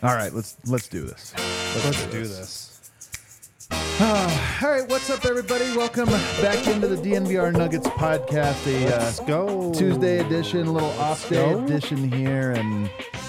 All right, let's do this. Let's do this. All right, what's up, everybody? Welcome back into the DNVR Nuggets podcast. Let's go. Tuesday edition, a little off day edition here, and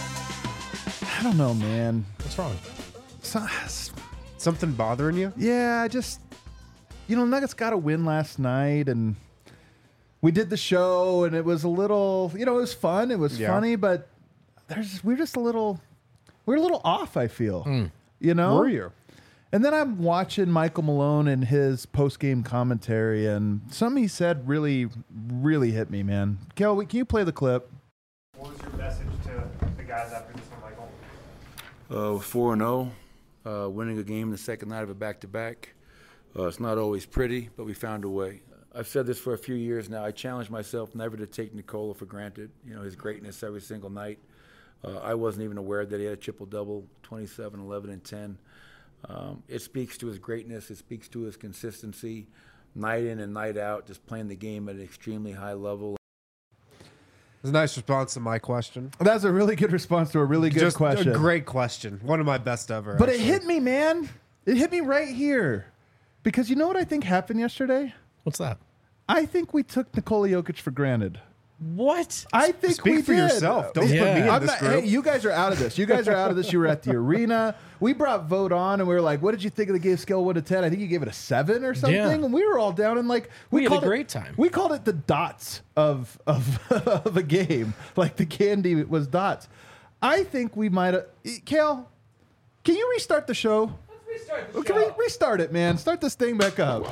I don't know, man. What's wrong? So, Something bothering you? yeah, I just Nuggets got a win last night, and we did the show, and it was a little, it was fun, it was funny, but we're a little off. I feel, Were you? And then I'm watching Michael Malone and his post-game commentary, and something he said really, really hit me, man. Kel, can you play the clip? What was your message to the guys after this one, Michael? 4-0, winning a game the second night of a back-to-back. It's not always pretty, but we found a way. I've said this for a few years now. I challenge myself never to take Nikola for granted, his greatness every single night. I wasn't even aware that he had a triple-double, 27, 11, and 10. It speaks to his greatness. It speaks to his consistency, night in and night out, just playing the game at an extremely high level. It's a nice response to my question. That's a really good response to a really good question. A great question. One of my best ever. But actually. it hit me, man. It hit me right here. Because you know what I think happened yesterday? What's that? I think we took Nikola Jokic for granted. What? I think Speak we for did. yourself. Don't Yeah. put me in I'm this not- group. hey, you guys are out of this. You guys are out of this. You were at the arena. We brought Vote on, and we were like, "What did you think of the game? Scale 1 to 10?" I think you gave it a 7 or something. Yeah. And we were all down, and like We had a called great time. We called it the dots of of a game. Like the candy was dots. I think we might have. Kale, can you restart the show? Can we restart it, man? Start this thing back up.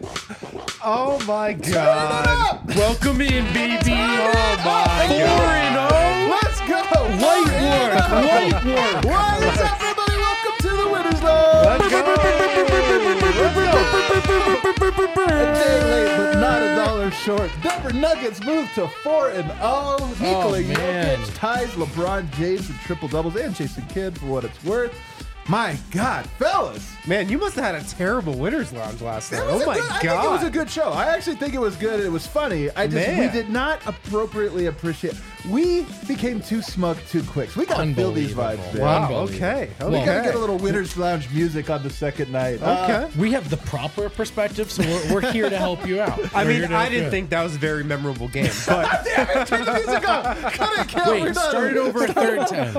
Oh my God. Welcome in, baby. Oh my God. Let's go. Light work. Light work. What's up, everybody? Welcome to the Winners Lounge. A day late, but not a dollar short. Denver Nuggets move to 4-0. Nikola man. Jokic ties LeBron James in triple doubles and Jason Kidd for what it's worth. My God, fellas. Man, you must have had a terrible winner's lounge last night. It was Oh my I think it was a good show. I actually think it was good. It was funny. We Man. did not appropriately appreciate. We became too smug too quick. So we got to feel these vibes, man. Wow. Unbelievable. Okay. Well, We got to Okay. get a little Winners Lounge music on the second night. Okay. We have the proper perspective, so we're here to help you out. I We're mean, here to I help you didn't out. think that was a very memorable game, but Damn it, turn the music off. Cut it, Kel. We're Wait, done. start it over at third and 10.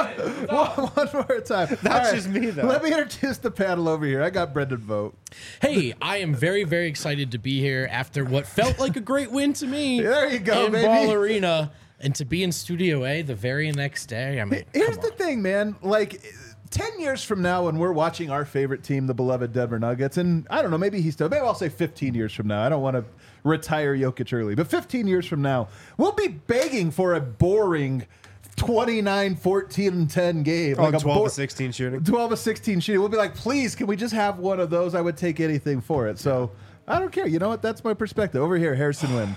One more time. That's just me, though. Let me introduce the panel over here. I got Brendan Vogt. Hey, I am very, very excited to be here after what felt like a great win to me. There you go, in baby. Ball Arena, and to be in Studio A the very next day. I mean, Here's come the on. thing, man. Like 10 years from now, when we're watching our favorite team, the beloved Denver Nuggets, and I don't know, maybe I'll say 15 years from now. I don't want to retire Jokic early, but 15 years from now, we'll be begging for a boring 29, 14, and 10 game. like a 12 to 16 shooting. 12 to 16 shooting. We'll be like, please, can we just have one of those? I would take anything for it. So I don't care. You know what? That's my perspective. Over here, Harrison Wynn.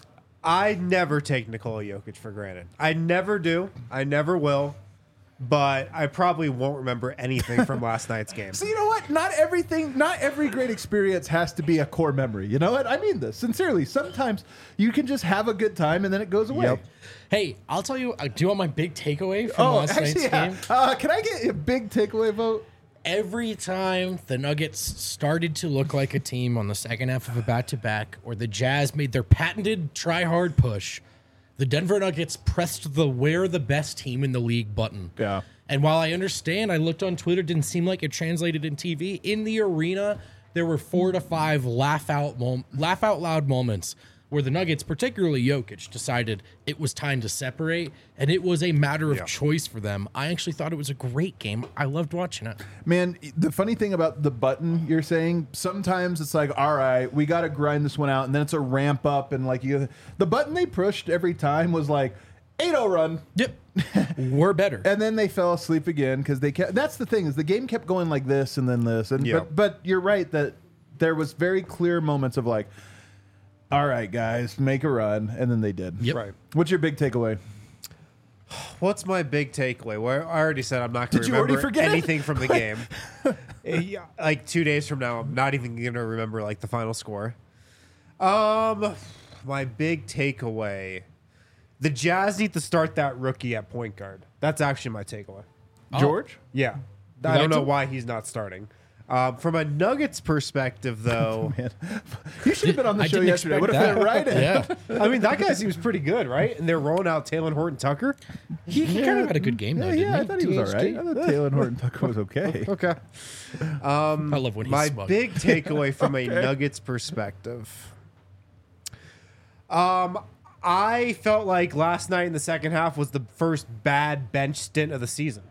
I never take Nikola Jokic for granted. I never do. I never will. But I probably won't remember anything from last night's game. So you know what? Not every great experience has to be a core memory. You know what? I mean this sincerely. Sometimes you can just have a good time and then it goes away. Yep. Hey, I'll tell you, do you want my big takeaway from last night's game? Can I get a big takeaway vote? Every time the Nuggets started to look like a team on the second half of a back-to-back, or the Jazz made their patented try-hard push, the Denver Nuggets pressed the "we're the best team in the league" button. Yeah. And while I understand, I looked on Twitter, didn't seem like it translated in TV. In the arena, there were 4 to 5 laugh out loud moments where the Nuggets, particularly Jokic, decided it was time to separate, and it was a matter of choice for them. I actually thought it was a great game. I loved watching it. Man, the funny thing about the button you're saying, sometimes it's like, all right, we got to grind this one out, and then it's a ramp up, and like the button they pushed every time was like 8-0 run. Yep. We're better. And then they fell asleep again because they kept. That's the thing, is the game kept going like this and then this, and Yeah. but you're right that there was very clear moments of like, all right, guys, make a run, and then they did. Yep. Right. What's your big takeaway? What's my big takeaway? Well, I already said I'm not going Did to you already remember forget it? anything from the game. Yeah, like 2 days from now, I'm not even going to remember like the final score. My big takeaway: the Jazz need to start that rookie at point guard. That's actually my takeaway. George? Yeah. I don't liked know him? why he's not starting. From a Nuggets perspective, though, Man, you should have been on the I show didn't yesterday. expect Would have fit that. right in. Yeah, I mean, that guy seems pretty good, right? And they're rolling out Taylor Horton Tucker. he kind of had a good game though. Yeah, didn't I he? thought he was all right. THT? I thought Taylor Horton Tucker was okay. Okay. I love when he's My smug. big takeaway from a Nuggets perspective. I felt like last night in the second half was the first bad bench stint of the season.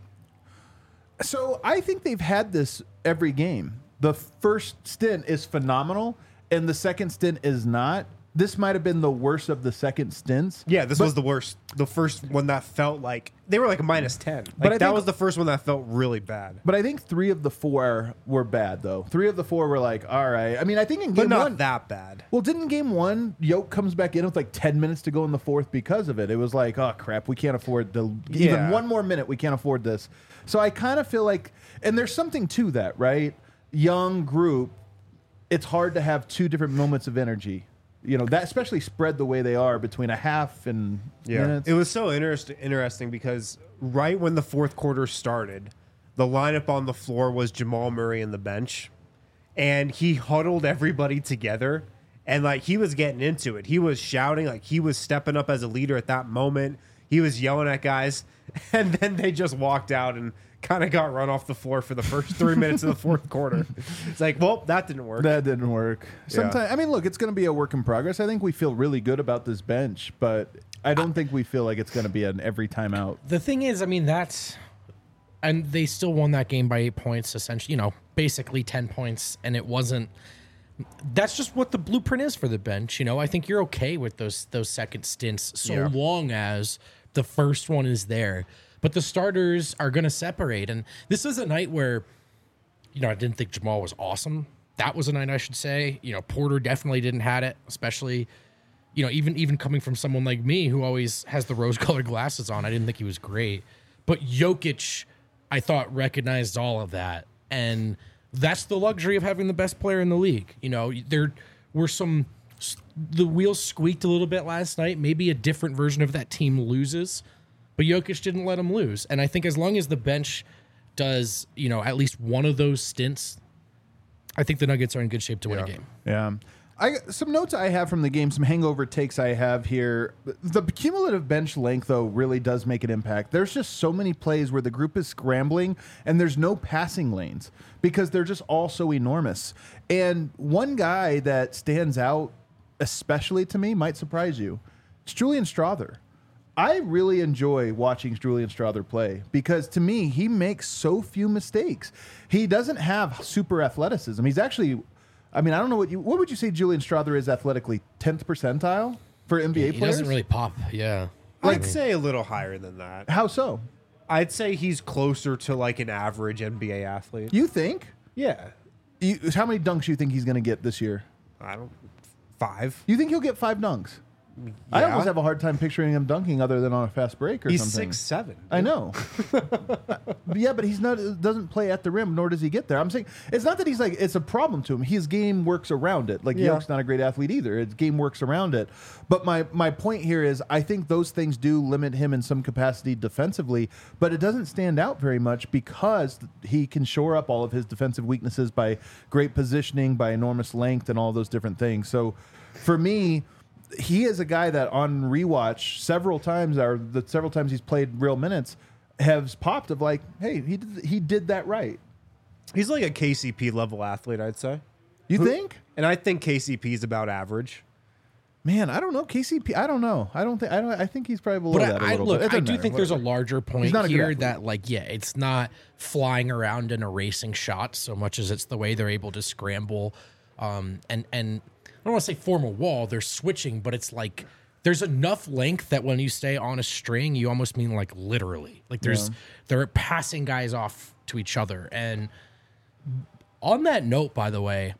So I think they've had this every game. The first stint is phenomenal, and the second stint is not. This might have been the worst of the second stints. Yeah, this But- was the worst. The first one that felt like they were like a -10. But I Like that think- was the first one that felt really bad. But I think 3 of the 4 were bad, though. 3 of the 4 were like, all right. I mean, I think in But game not one. that bad. Well, didn't game 1, Yoke comes back in with like 10 minutes to go in the fourth because of it. It was like, oh, crap, we can't afford to. Even Yeah. one more minute, we can't afford this. So I kind of feel like, and there's something to that, right? Young group, it's hard to have 2 different moments of energy. You know, that especially spread the way they are between a half and minutes. It was so interesting because right when the fourth quarter started, the lineup on the floor was Jamal Murray and the bench, and he huddled everybody together, and like he was getting into it. He was shouting, like he was stepping up as a leader at that moment. He was yelling at guys, and then they just walked out and kind of got run off the floor for the first 3 minutes of the fourth quarter. It's like, well, that didn't work. That didn't work. Sometimes, I mean, look, it's going to be a work in progress. I think we feel really good about this bench, but I don't think we feel like it's going to be an every time out. The thing is, I mean, and they still won that game by 8 points, essentially, basically 10 points, and it wasn't. That's just what the blueprint is for the bench. I think you're okay with those second stints so long as the first one is there. But the starters are going to separate. And this is a night where, I didn't think Jamal was awesome. That was a night, I should say. Porter definitely didn't have it, especially, even coming from someone like me who always has the rose-colored glasses on. I didn't think he was great. But Jokic, I thought, recognized all of that. And that's the luxury of having the best player in the league. There were the wheels squeaked a little bit last night. Maybe a different version of that team loses. But Jokic didn't let him lose. And I think as long as the bench does, at least one of those stints, I think the Nuggets are in good shape to win a game. Yeah. Some notes I have from the game, some hangover takes I have here. The cumulative bench length, though, really does make an impact. There's just so many plays where the group is scrambling and there's no passing lanes because they're just all so enormous. And one guy that stands out, especially to me, might surprise you. It's Julian Strawther. I really enjoy watching Julian Strawther play because to me, he makes so few mistakes. He doesn't have super athleticism. He's actually, I don't know what would you say Julian Strawther is athletically? 10th percentile for NBA He players? doesn't really pop. Yeah. I'd say a little higher than that. How so? I'd say he's closer to like an average NBA athlete. You think? Yeah. How many dunks do you think he's going to get this year? I don't. 5. You think he'll get 5 dunks? I Yeah. almost have a hard time picturing him dunking other than on a fast break or He's something. 6'7". I know. Yeah, but he's not. Doesn't play at the rim, nor does he get there. I'm saying it's not that he's like it's a problem to him. His game works around it. Like Yeah. Yoke's not a great athlete either. His game works around it. But my point here is I think those things do limit him in some capacity defensively, but it doesn't stand out very much because he can shore up all of his defensive weaknesses by great positioning, by enormous length, and all those different things. So for me, he is a guy that on rewatch several times, or the several times he's played real minutes, has popped of like, hey, he did that right. He's like a KCP level athlete, I'd say. You think? And I think KCP is about average. Man, I don't know. KCP, I don't know. I think he's probably below that a little Look, bit. It I doesn't do matter, think there's a whatever. larger point not a good here athlete. that, it's not flying around and erasing shots so much as it's the way they're able to scramble and I don't want to say form a wall. They're switching, but it's like there's enough length that when you stay on a string, you almost mean like literally. Like they're passing guys off to each other. And on that note, by the way,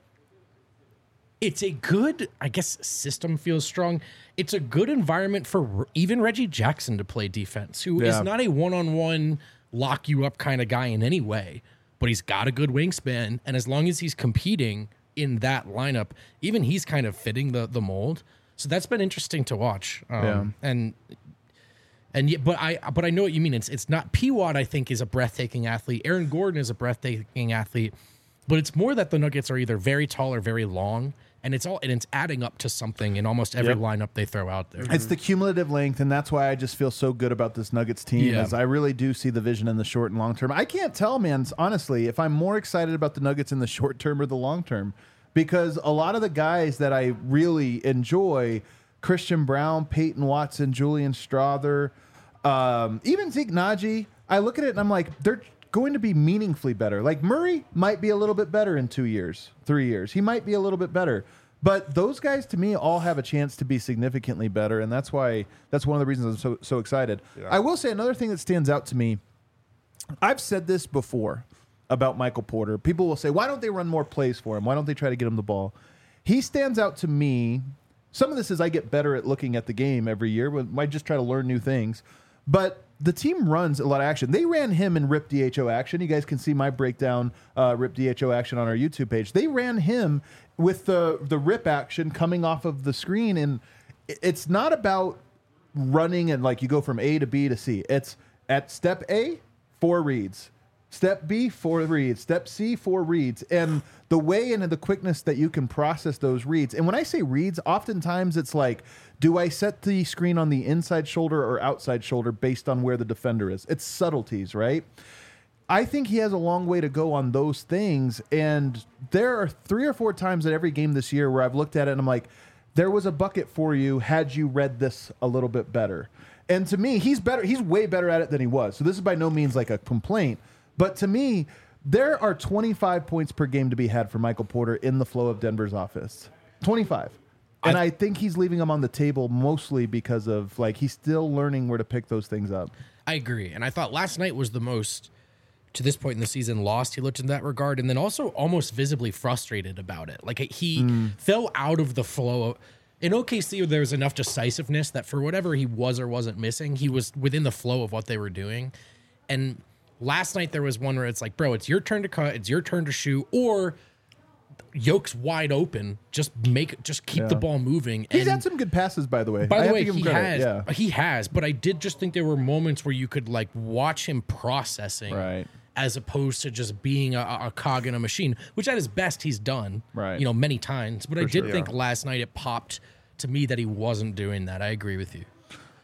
it's a good, I guess system feels strong. It's a good environment for even Reggie Jackson to play defense, who is not a one-on-one lock you up kind of guy in any way, but he's got a good wingspan. And as long as he's competing in that lineup, even he's kind of fitting the mold. So that's been interesting to watch. And And yet, but I know what you mean. It's not P-Watt, I think, is a breathtaking athlete. Aaron Gordon is a breathtaking athlete, but it's more that the Nuggets are either very tall or very long, and it's adding up to something in almost every lineup they throw out there. It's the cumulative length, and that's why I just feel so good about this Nuggets team. Yeah. As I really do see the vision in the short and long term. I can't tell, man, honestly, if I'm more excited about the Nuggets in the short term or the long term, because a lot of the guys that I really enjoy, Christian Brown, Peyton Watson, Julian Strawther, even Zeke Naji, I look at it and I'm like, they're going to be meaningfully better. Like Murray might be a little bit better in 2 years, 3 years. He might be a little bit better. But those guys, to me, all have a chance to be significantly better, and that's one of the reasons I'm so excited. Yeah. I will say another thing that stands out to me, I've said this before about Michael Porter. People will say, why don't they run more plays for him? Why don't they try to get him the ball? He stands out to me. Some of this is I get better at looking at the game every year. I just try to learn new things. But the team runs a lot of action. They ran him in Rip DHO action. You guys can see my breakdown, Rip DHO action on our YouTube page. They ran him with the rip action coming off of the screen. And it's not about running and like you go from A to B to C. It's at step A, 4 reads. Step B, 4 reads. Step C, 4 reads. And the way and the quickness that you can process those reads. And when I say reads, oftentimes it's like, do I set the screen on the inside shoulder or outside shoulder based on where the defender is? It's subtleties, right? I think he has a long way to go on those things. And there are 3 or 4 times at every game this year where I've looked at it and I'm like, there was a bucket for you had you read this a little bit better. And to me, he's better. He's way better at it than he was. So this is by no means like a complaint. But to me, there are 25 points per game to be had for Michael Porter in the flow of Denver's offense. 25. And I think he's leaving them on the table mostly because of, like, he's still learning where to pick those things up. I agree. And I thought last night was the most, to this point in the season, lost he looked in that regard. And then also almost visibly frustrated about it. Like, he fell out of the flow. In OKC, there was enough decisiveness that for whatever he was or wasn't missing, he was within the flow of what they were doing. And last night there was one where it's like, bro, it's your turn to cut, it's your turn to shoot, or Yoke's wide open. Just keep the ball moving. He's had some good passes, by the way. By the way, he has. But I did just think there were moments where you could like watch him processing, Right. as opposed to just being a cog in a machine, which at his best he's done, Right. many times. But I did think last night it popped to me that he wasn't doing that. I agree with you.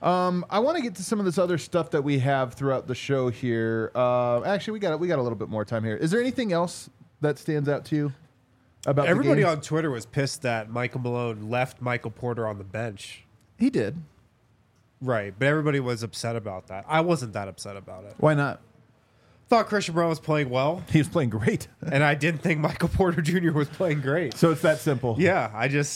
I want to get to some of this other stuff that we have throughout the show here. Actually, we got a little bit more time here. Is there anything else that stands out to you about Everybody the game? on Twitter was pissed that Michael Malone left Michael Porter on the bench. He did. Right, but everybody was upset about that. I wasn't that upset about it. Why not? Thought Christian Brown was playing well, He was playing great. and I didn't think Michael Porter Jr. was playing great. So it's that simple. Yeah,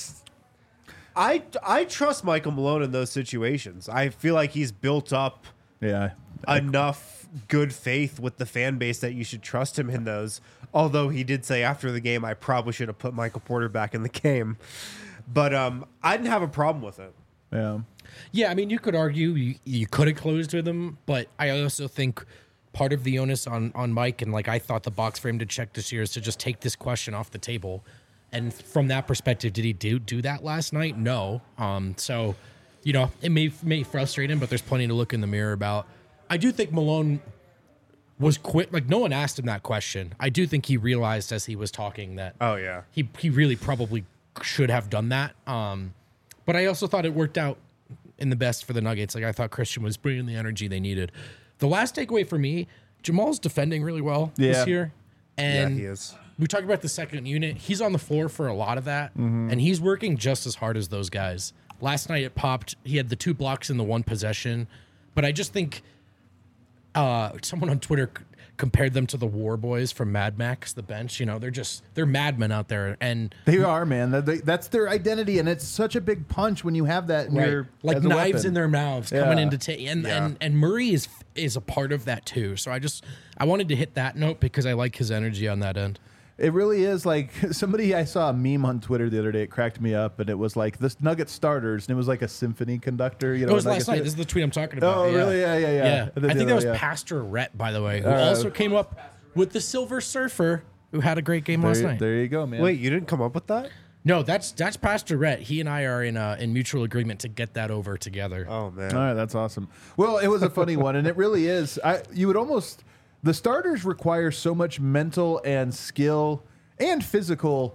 I trust Michael Malone in those situations. I feel like he's built up Yeah. enough good faith with the fan base that you should trust him in those. Although he did say after the game, I probably should have put Michael Porter back in the game. But I didn't have a problem with it. Yeah. Yeah, I mean, you could argue you could have closed with him, but I also think part of the onus on Mike, and like I thought the box for him to check this year is to just take this question off the table. And from that perspective, did he do that last night? No. So, it may frustrate him, but there's plenty to look in the mirror about. I do think Malone was quick. Like, no one asked him that question. I do think he realized as he was talking that Oh, yeah. he really probably should have done that. But I also thought it worked out in the best for the Nuggets. Like, I thought Christian was bringing the energy they needed. The last takeaway for me, Jamal's defending really well this year. And he is. we talk about the second unit. He's on the floor for a lot of that, and he's working just as hard as those guys. Last night it popped. He had the 2 blocks in the 1 possession, but I just think someone on Twitter compared them to the War Boys from Mad Max, the bench. They're madmen out there, and They are, man. That's their identity, and it's such a big punch when you have that in your like as a knives weapon. in their mouths coming Yeah. into and Murray is a part of that too. So I wanted to hit that note because I like his energy on that end. It really is like I saw a meme on Twitter the other day. It cracked me up, and it was like this Nugget starters, and it was like a symphony conductor. It was last night. This is the tweet I'm talking about. Oh, really? Yeah. I think that was Pastor Rhett, by the way, who also came up with the Silver Surfer, who had a great game last night. There you go, man. Wait, you didn't come up with that? No, that's Pastor Rhett. He and I are in mutual agreement to get that over together. Oh man. All right, that's awesome. Well, it was a funny one, and it really is. You would almost the starters require so much mental and skill and physical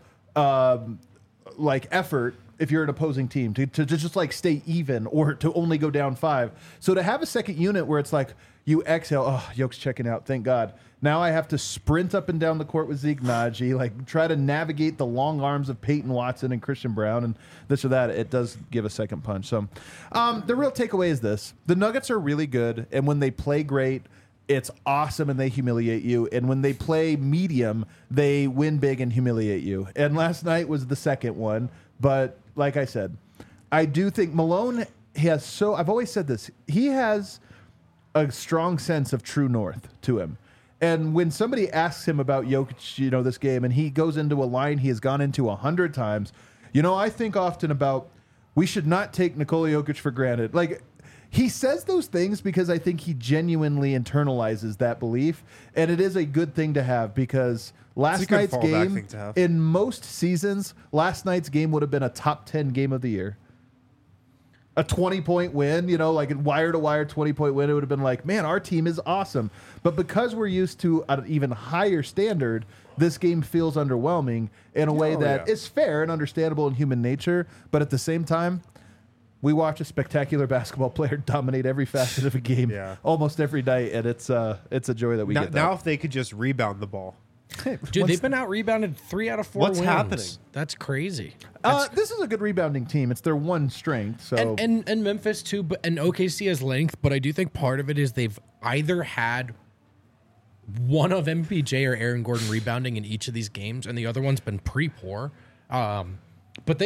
effort if you're an opposing team to just like stay even or to only go down 5. So to have a second unit where it's like you exhale, oh, Yoke's checking out, thank God. Now I have to sprint up and down the court with Zeke Naji, like try to navigate the long arms of Peyton Watson and Christian Brown and this or that. It does give a second punch. So the real takeaway is this. The Nuggets are really good, and when they play great, it's awesome and they humiliate you. And when they play medium, they win big and humiliate you. And last night was the second one. But like I said, I do think Malone has I've always said this, he has a strong sense of true north to him. And when somebody asks him about Jokic, this game, and he goes into a line he has gone into 100 times, I think often about we should not take Nikola Jokic for granted. Like, he says those things because I think he genuinely internalizes that belief, and it is a good thing to have because last night's game, in most seasons, last night's game would have been a top 10 game of the year. A 20-point win, like a wire-to-wire 20-point win, it would have been like, man, our team is awesome. But because we're used to an even higher standard, this game feels underwhelming in a way that is fair and understandable in human nature. But at the same time, we watch a spectacular basketball player dominate every facet of a game almost every night, and it's a joy that we get. Now, if they could just rebound the ball. Dude, they've been out rebounded 3 out of 4 wins. What's happening? That's crazy. This is a good rebounding team. It's their one strength. So and Memphis too, and OKC has length, but I do think part of it is they've either had one of MPJ or Aaron Gordon rebounding in each of these games, and the other one's been pretty poor. But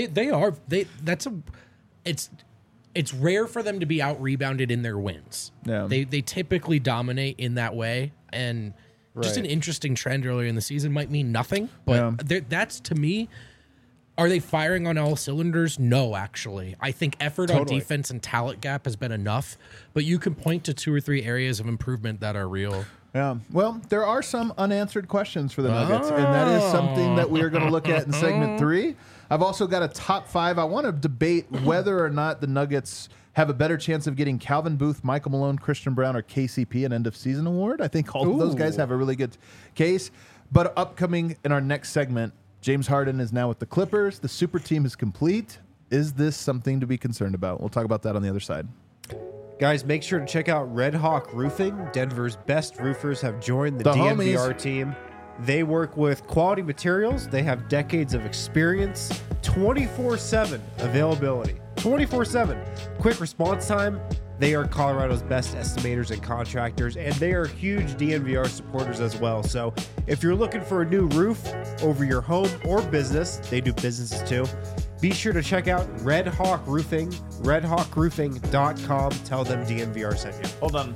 it's rare for them to be out rebounded in their wins. Yeah. They typically dominate in that way, and just an interesting trend earlier in the season might mean nothing, but that's, to me, are they firing on all cylinders? No, actually. I think effort on defense and talent gap has been enough, but you can point to 2 or 3 areas of improvement that are real. Yeah. Well, there are some unanswered questions for the Nuggets, and that is something that we are going to look at in segment 3. I've also got a top 5. I want to debate whether or not the Nuggets have a better chance of getting Calvin Booth, Michael Malone, Christian Brown, or KCP an end-of-season award. I think all of those guys have a really good case. But upcoming in our next segment, James Harden is now with the Clippers. The super team is complete. Is this something to be concerned about? We'll talk about that on the other side. Guys, make sure to check out Red Hawk Roofing. Denver's best roofers have joined the DNVR team. They work with quality materials. They have decades of experience, 24/7 availability. 24/7. Quick response time. They are Colorado's best estimators and contractors, and they are huge DNVR supporters as well. So if you're looking for a new roof over your home or business, they do businesses too, be sure to check out Red Hawk Roofing, redhawkroofing.com. Tell them DNVR sent you. Hold on.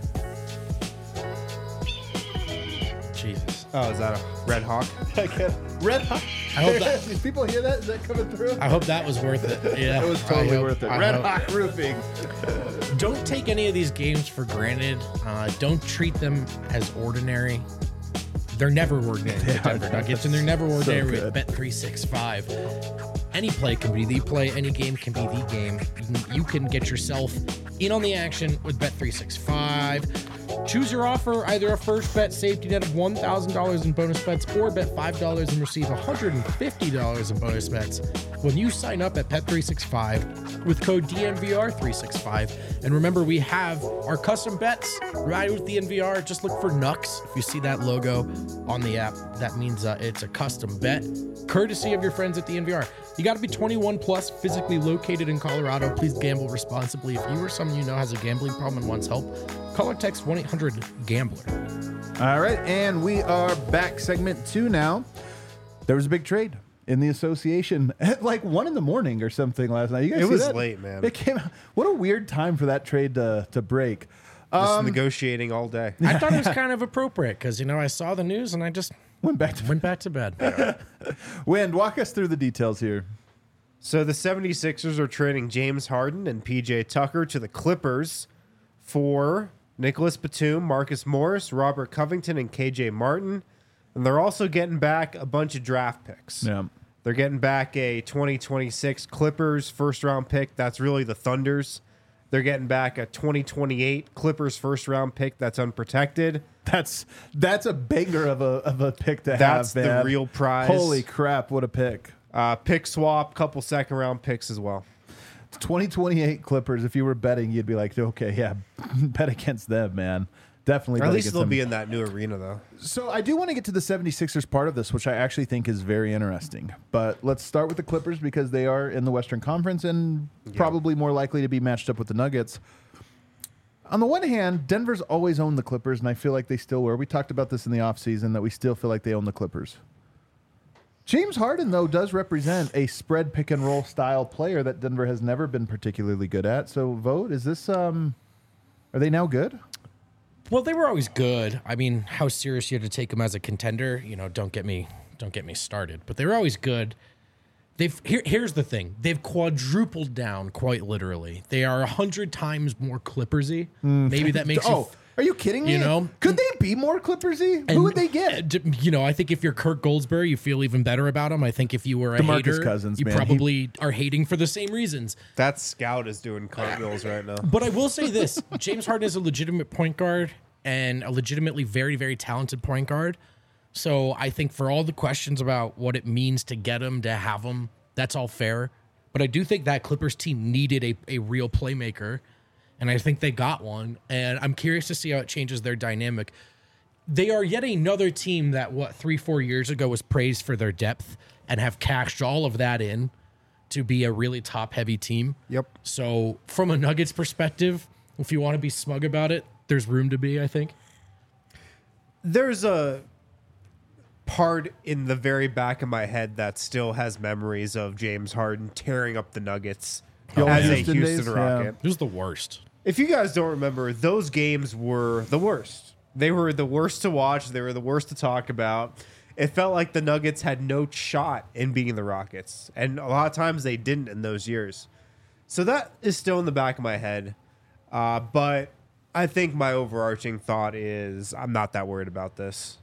Jesus. Oh, is that a Red Hawk? Red Hawk. I hope that, Did people hear that? Is that coming through? I hope that was worth it. Yeah, It was totally worth it. Red Hawk Roofing. Don't take any of these games for granted. Don't treat them as ordinary. They're never ordinary with the Denver Nuggets, and they're never ordinary with Bet365. Any play can be the play. Any game can be the game. You can get yourself in on the action with Bet365. Choose your offer, either a first bet safety net of $1,000 in bonus bets or bet $5 and receive $150 in bonus bets when you sign up at Bet365 with code DNVR365. And remember, we have our custom bets right with the DNVR. Just look for Nux. If you see that logo on the app, that means it's a custom bet, courtesy of your friends at the DNVR. You got to be 21 plus, physically located in Colorado. Please gamble responsibly. If you or someone you know has a gambling problem and wants help, call or text 1-800-GAMBLER. All right, and we are back. Segment 2 now. There was a big trade in the association at like 1 a.m. or something last night. You guys It see was that? late, man. It came out. What a weird time for that trade to break. Just negotiating all day. I thought it was kind of appropriate because, I saw the news and I just Went back to bed. Wind, walk us through the details here. So the 76ers are trading James Harden and PJ Tucker to the Clippers for Nicholas Batum, Marcus Morris, Robert Covington, and KJ Martin. And they're also getting back a bunch of draft picks. Yeah. They're getting back a 2026 Clippers first-round pick. That's really the Thunder's. They're getting back a 2028 Clippers first-round pick that's unprotected. That's a banger of a pick to That's have, the man. real prize. Holy crap, what a pick. Pick swap, couple second-round picks as well. 2028 Clippers, if you were betting, you'd be like, okay, yeah, bet against them, man. Definitely Or bet at least against they'll them. be in that new arena, though. So I do want to get to the 76ers part of this, which I actually think is very interesting. But let's start with the Clippers because they are in the Western Conference and probably more likely to be matched up with the Nuggets. On the one hand, Denver's always owned the Clippers, and I feel like they still were. We talked about this in the offseason, that we still feel like they own the Clippers. James Harden, though, does represent a spread pick-and-roll style player that Denver has never been particularly good at. So, Vote, is this are they now good? Well, they were always good. I mean, how serious you had to take them as a contender, don't get me started. But they were always good. Here's the thing. They've quadrupled down, quite literally. They are 100 times more Clippersy. Maybe that makes you... Are you kidding me? You Could they be more Clippersy? Who would they get? I think if you're Kirk Goldsberry, you feel even better about him. I think if you were a DeMarcus hater, Cousins, you man. probably are hating for the same reasons. That scout is doing cartwheels right now. But I will say this. James Harden is a legitimate point guard and a legitimately very, very talented point guard. So I think for all the questions about what it means to get him, to have him, that's all fair. But I do think that Clippers team needed a real playmaker, and I think they got one. And I'm curious to see how it changes their dynamic. They are yet another team that, 3-4 years ago was praised for their depth and have cashed all of that in to be a really top-heavy team. Yep. So from a Nuggets perspective, if you want to be smug about it, there's room to be, I think. There's a part in the very back of my head that still has memories of James Harden tearing up the Nuggets as a Houston Houston days? Rocket. It was the worst. If you guys don't remember, those games were the worst. They were the worst to watch. They were the worst to talk about. It felt like the Nuggets had no shot in beating the Rockets. And a lot of times they didn't in those years. So that is still in the back of my head. But I think my overarching thought is I'm not that worried about this.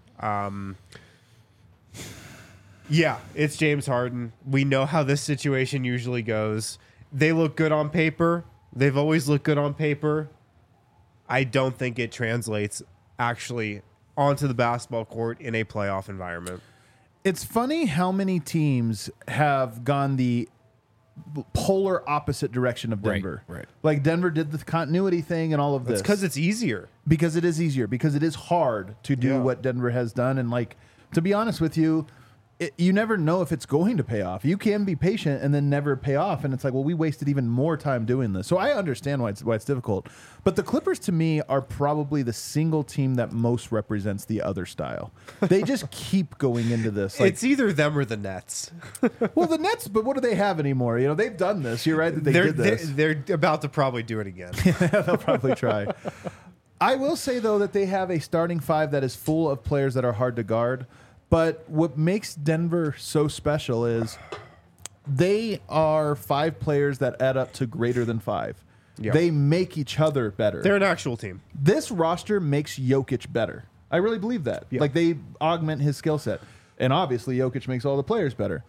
Yeah, it's James Harden. We know how this situation usually goes. They look good on paper. They've always looked good on paper. I don't think it translates actually onto the basketball court in a playoff environment. It's funny how many teams have gone the polar opposite direction of Denver. Right. Like Denver did the continuity thing and all of this. It's because it's easier. Because it is easier. Because it is hard to do what Denver has done. And like, to be honest with you, you never know if it's going to pay off. You can be patient and then never pay off. And it's like, well, we wasted even more time doing this. So I understand why it's difficult. But the Clippers, to me, are probably the single team that most represents the other style. They just keep going into this. Like, It's either them or the Nets. well, the Nets, but what do they have anymore? They've done this. You're right that they did this. They're about to probably do it again. They'll probably try. I will say, though, that they have a starting five that is full of players that are hard to guard. But what makes Denver so special is they are 5 players that add up to greater than 5. Yep. They make each other better. They're an actual team. This roster makes Jokic better. I really believe that. Yep. Like, they augment his skill set. And obviously, Jokic makes all the players better.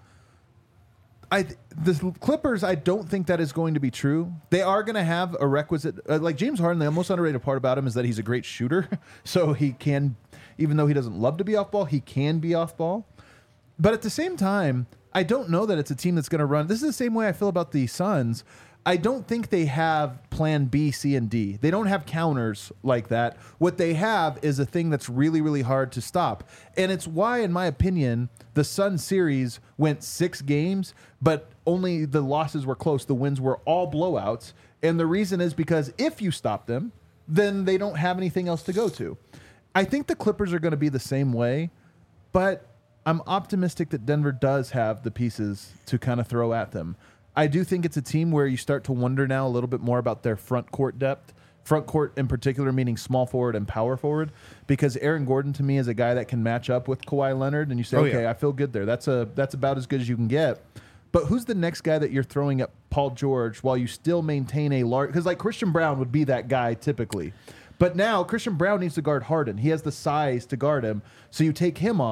The Clippers, I don't think that is going to be true. They are going to have a requisite... like James Harden, the most underrated part about him is that he's a great shooter. So he can... Even though he doesn't love to be off ball, he can be off ball. But at the same time, I don't know that it's a team that's going to run. This is the same way I feel about the Suns. I don't think they have plan B, C, and D. They don't have counters like that. What they have is a thing that's really, really hard to stop. And it's why, in my opinion, the Suns series went 6 games, but only the losses were close. The wins were all blowouts. And the reason is because if you stop them, then they don't have anything else to go to. I think the Clippers are going to be the same way, but I'm optimistic that Denver does have the pieces to kind of throw at them. I do think it's a team where you start to wonder now a little bit more about their front court depth. Front court in particular, meaning small forward and power forward, because Aaron Gordon to me is a guy that can match up with Kawhi Leonard, and you say, okay, I feel good there. That's about as good as you can get. But who's the next guy that you're throwing at Paul George while you still maintain a large... Because like Christian Brown would be that guy typically. But now Christian Brown needs to guard Harden. He has the size to guard him. So you take him off.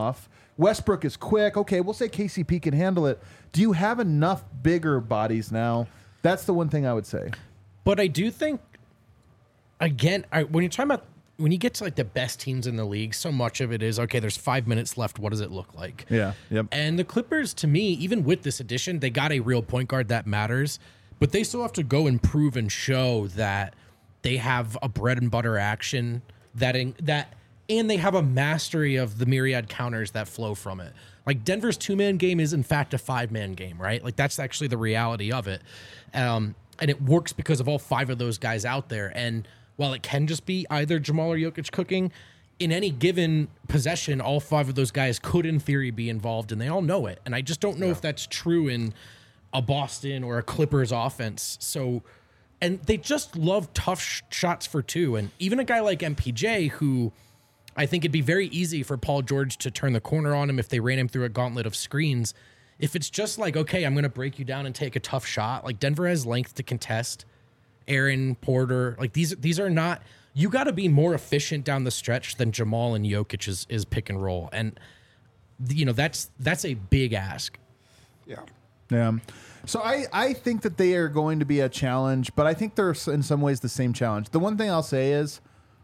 Westbrook is quick. Okay, we'll say KCP can handle it. Do you have enough bigger bodies now? That's the one thing I would say. But I do think, again, when you're talking about, when you get to like the best teams in the league, so much of it is, okay, there's 5 minutes left. What does it look like? Yeah. Yep. And the Clippers, to me, even with this addition, they got a real point guard that matters, but they still have to go and prove and show that they have a bread and butter action and they have a mastery of the myriad counters that flow from it. Like Denver's 2-man game is in fact a 5-man game, right? Like that's actually the reality of it. And it works because of all 5 of those guys out there. And while it can just be either Jamal or Jokic cooking, in any given possession, all 5 of those guys could in theory be involved, and they all know it. And I just don't know if that's true in a Boston or a Clippers offense. So, and they just love tough shots for 2. And even a guy like MPJ, who I think it'd be very easy for Paul George to turn the corner on him if they ran him through a gauntlet of screens. If it's just like, okay, I'm going to break you down and take a tough shot, like Denver has length to contest. Aaron Porter, like these are not, you got to be more efficient down the stretch than Jamal and Jokic is pick and roll. And, you know, that's a big ask. Yeah. Yeah. So I think that they are going to be a challenge, but I think they're in some ways the same challenge. The one thing I'll say is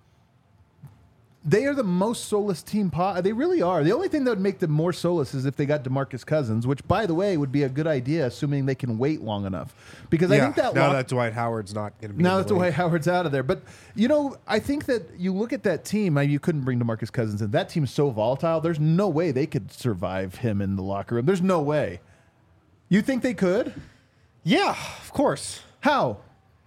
they are the most soulless team. They really are. The only thing that would make them more soulless is if they got DeMarcus Cousins, which, by the way, would be a good idea, assuming they can wait long enough. Because I think that now that Dwight Howard's not going to be now that Dwight Howard's out of there. But, you know, I think that you look at that team, you couldn't bring DeMarcus Cousins in. That team's so volatile, there's no way they could survive him in the locker room. There's no way. You think they could? Yeah, of course. How?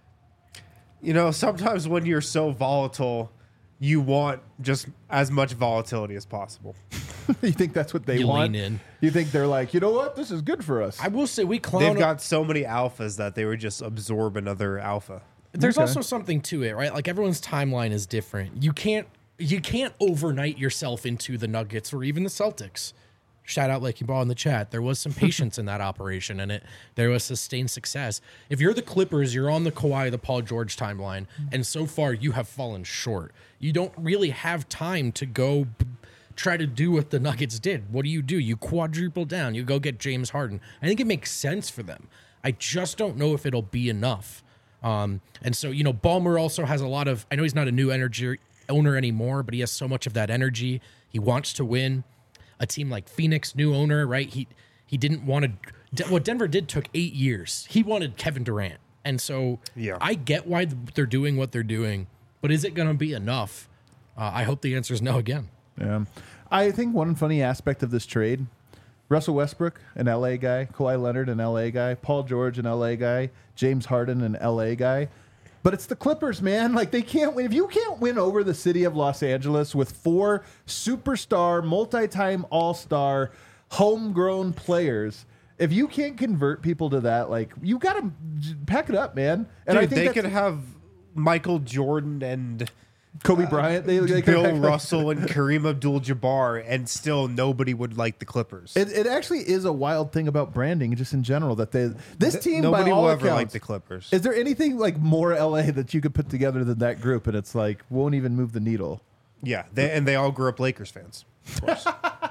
You know, sometimes when you're so volatile, you want just as much volatility as possible. You think that's what they You want? lean in. You think they're like, you know what? This is good for us. I will say we clown. They've got so many alphas that they would just absorb another alpha. There's Okay. also something to it, right? Like everyone's timeline is different. You can't overnight yourself into the Nuggets or even the Celtics. Shout out Lakey Ball in the chat. There was some patience in that operation, and there was sustained success. If you're the Clippers, you're on the Kawhi, the Paul George timeline, and so far you have fallen short. You don't really have time to go try to do what the Nuggets did. What do? You quadruple down. You go get James Harden. I think it makes sense for them. I just don't know if it'll be enough. And so, you know, Ballmer also has a lot of, I know he's not a new energy owner anymore, but he has so much of that energy. He wants to win. A team like Phoenix, new owner, right? He didn't want to. What Denver did took 8 years. He wanted Kevin Durant, and so I get why they're doing what they're doing. But is it going to be enough? I hope the answer is no again. Yeah, I think one funny aspect of this trade: Russell Westbrook, an LA guy; Kawhi Leonard, an LA guy; Paul George, an LA guy; James Harden, an LA guy. But it's the Clippers, man. Like, they can't win. If you can't win over the city of Los Angeles with 4 superstar, multi-time all-star, homegrown players, if you can't convert people to that, like, you got to pack it up, man. And Dude, I think they could have Michael Jordan and Kobe Bryant, they could Bill act like- Russell and Kareem Abdul-Jabbar, and still nobody would like the Clippers. It actually is a wild thing about branding, just in general, that this team, Nobody by all will ever accounts, like the Clippers. Is there anything like more LA that you could put together than that group, and it's like won't even move the needle? Yeah, they all grew up Lakers fans. Of course.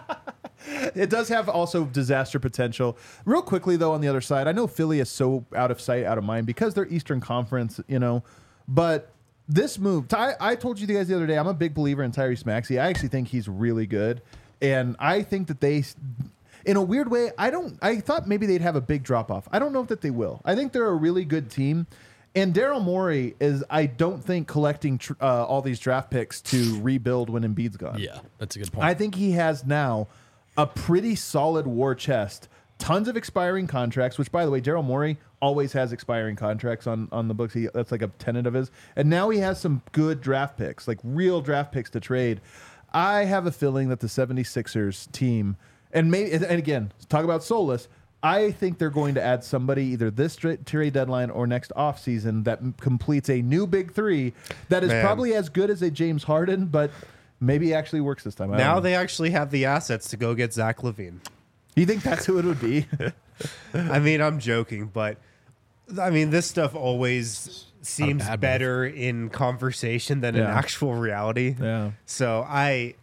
It does have also disaster potential. Real quickly, though, on the other side, I know Philly is so out of sight, out of mind because they're Eastern Conference, you know, but this move, I told you guys the other day, I'm a big believer in Tyrese Maxey. I actually think he's really good. And I think that they, in a weird way, I thought maybe they'd have a big drop off. I don't know that they will. I think they're a really good team. And Daryl Morey is, I don't think, collecting all these draft picks to rebuild when Embiid's gone. Yeah, that's a good point. I think he has now a pretty solid war chest. Tons of expiring contracts, which, by the way, Daryl Morey always has expiring contracts on the books. That's like a tenet of his. And now he has some good draft picks, like real draft picks to trade. I have a feeling that the 76ers team, and again, talk about soulless, I think they're going to add somebody either this trade deadline or next offseason that completes a new big three that is probably as good as a James Harden, but maybe actually works this time. Now they actually have the assets to go get Zach LaVine. You think that's who it would be? I mean, I'm joking, but I mean, this stuff always seems bad better in conversation than in Yeah. actual reality. Yeah. So I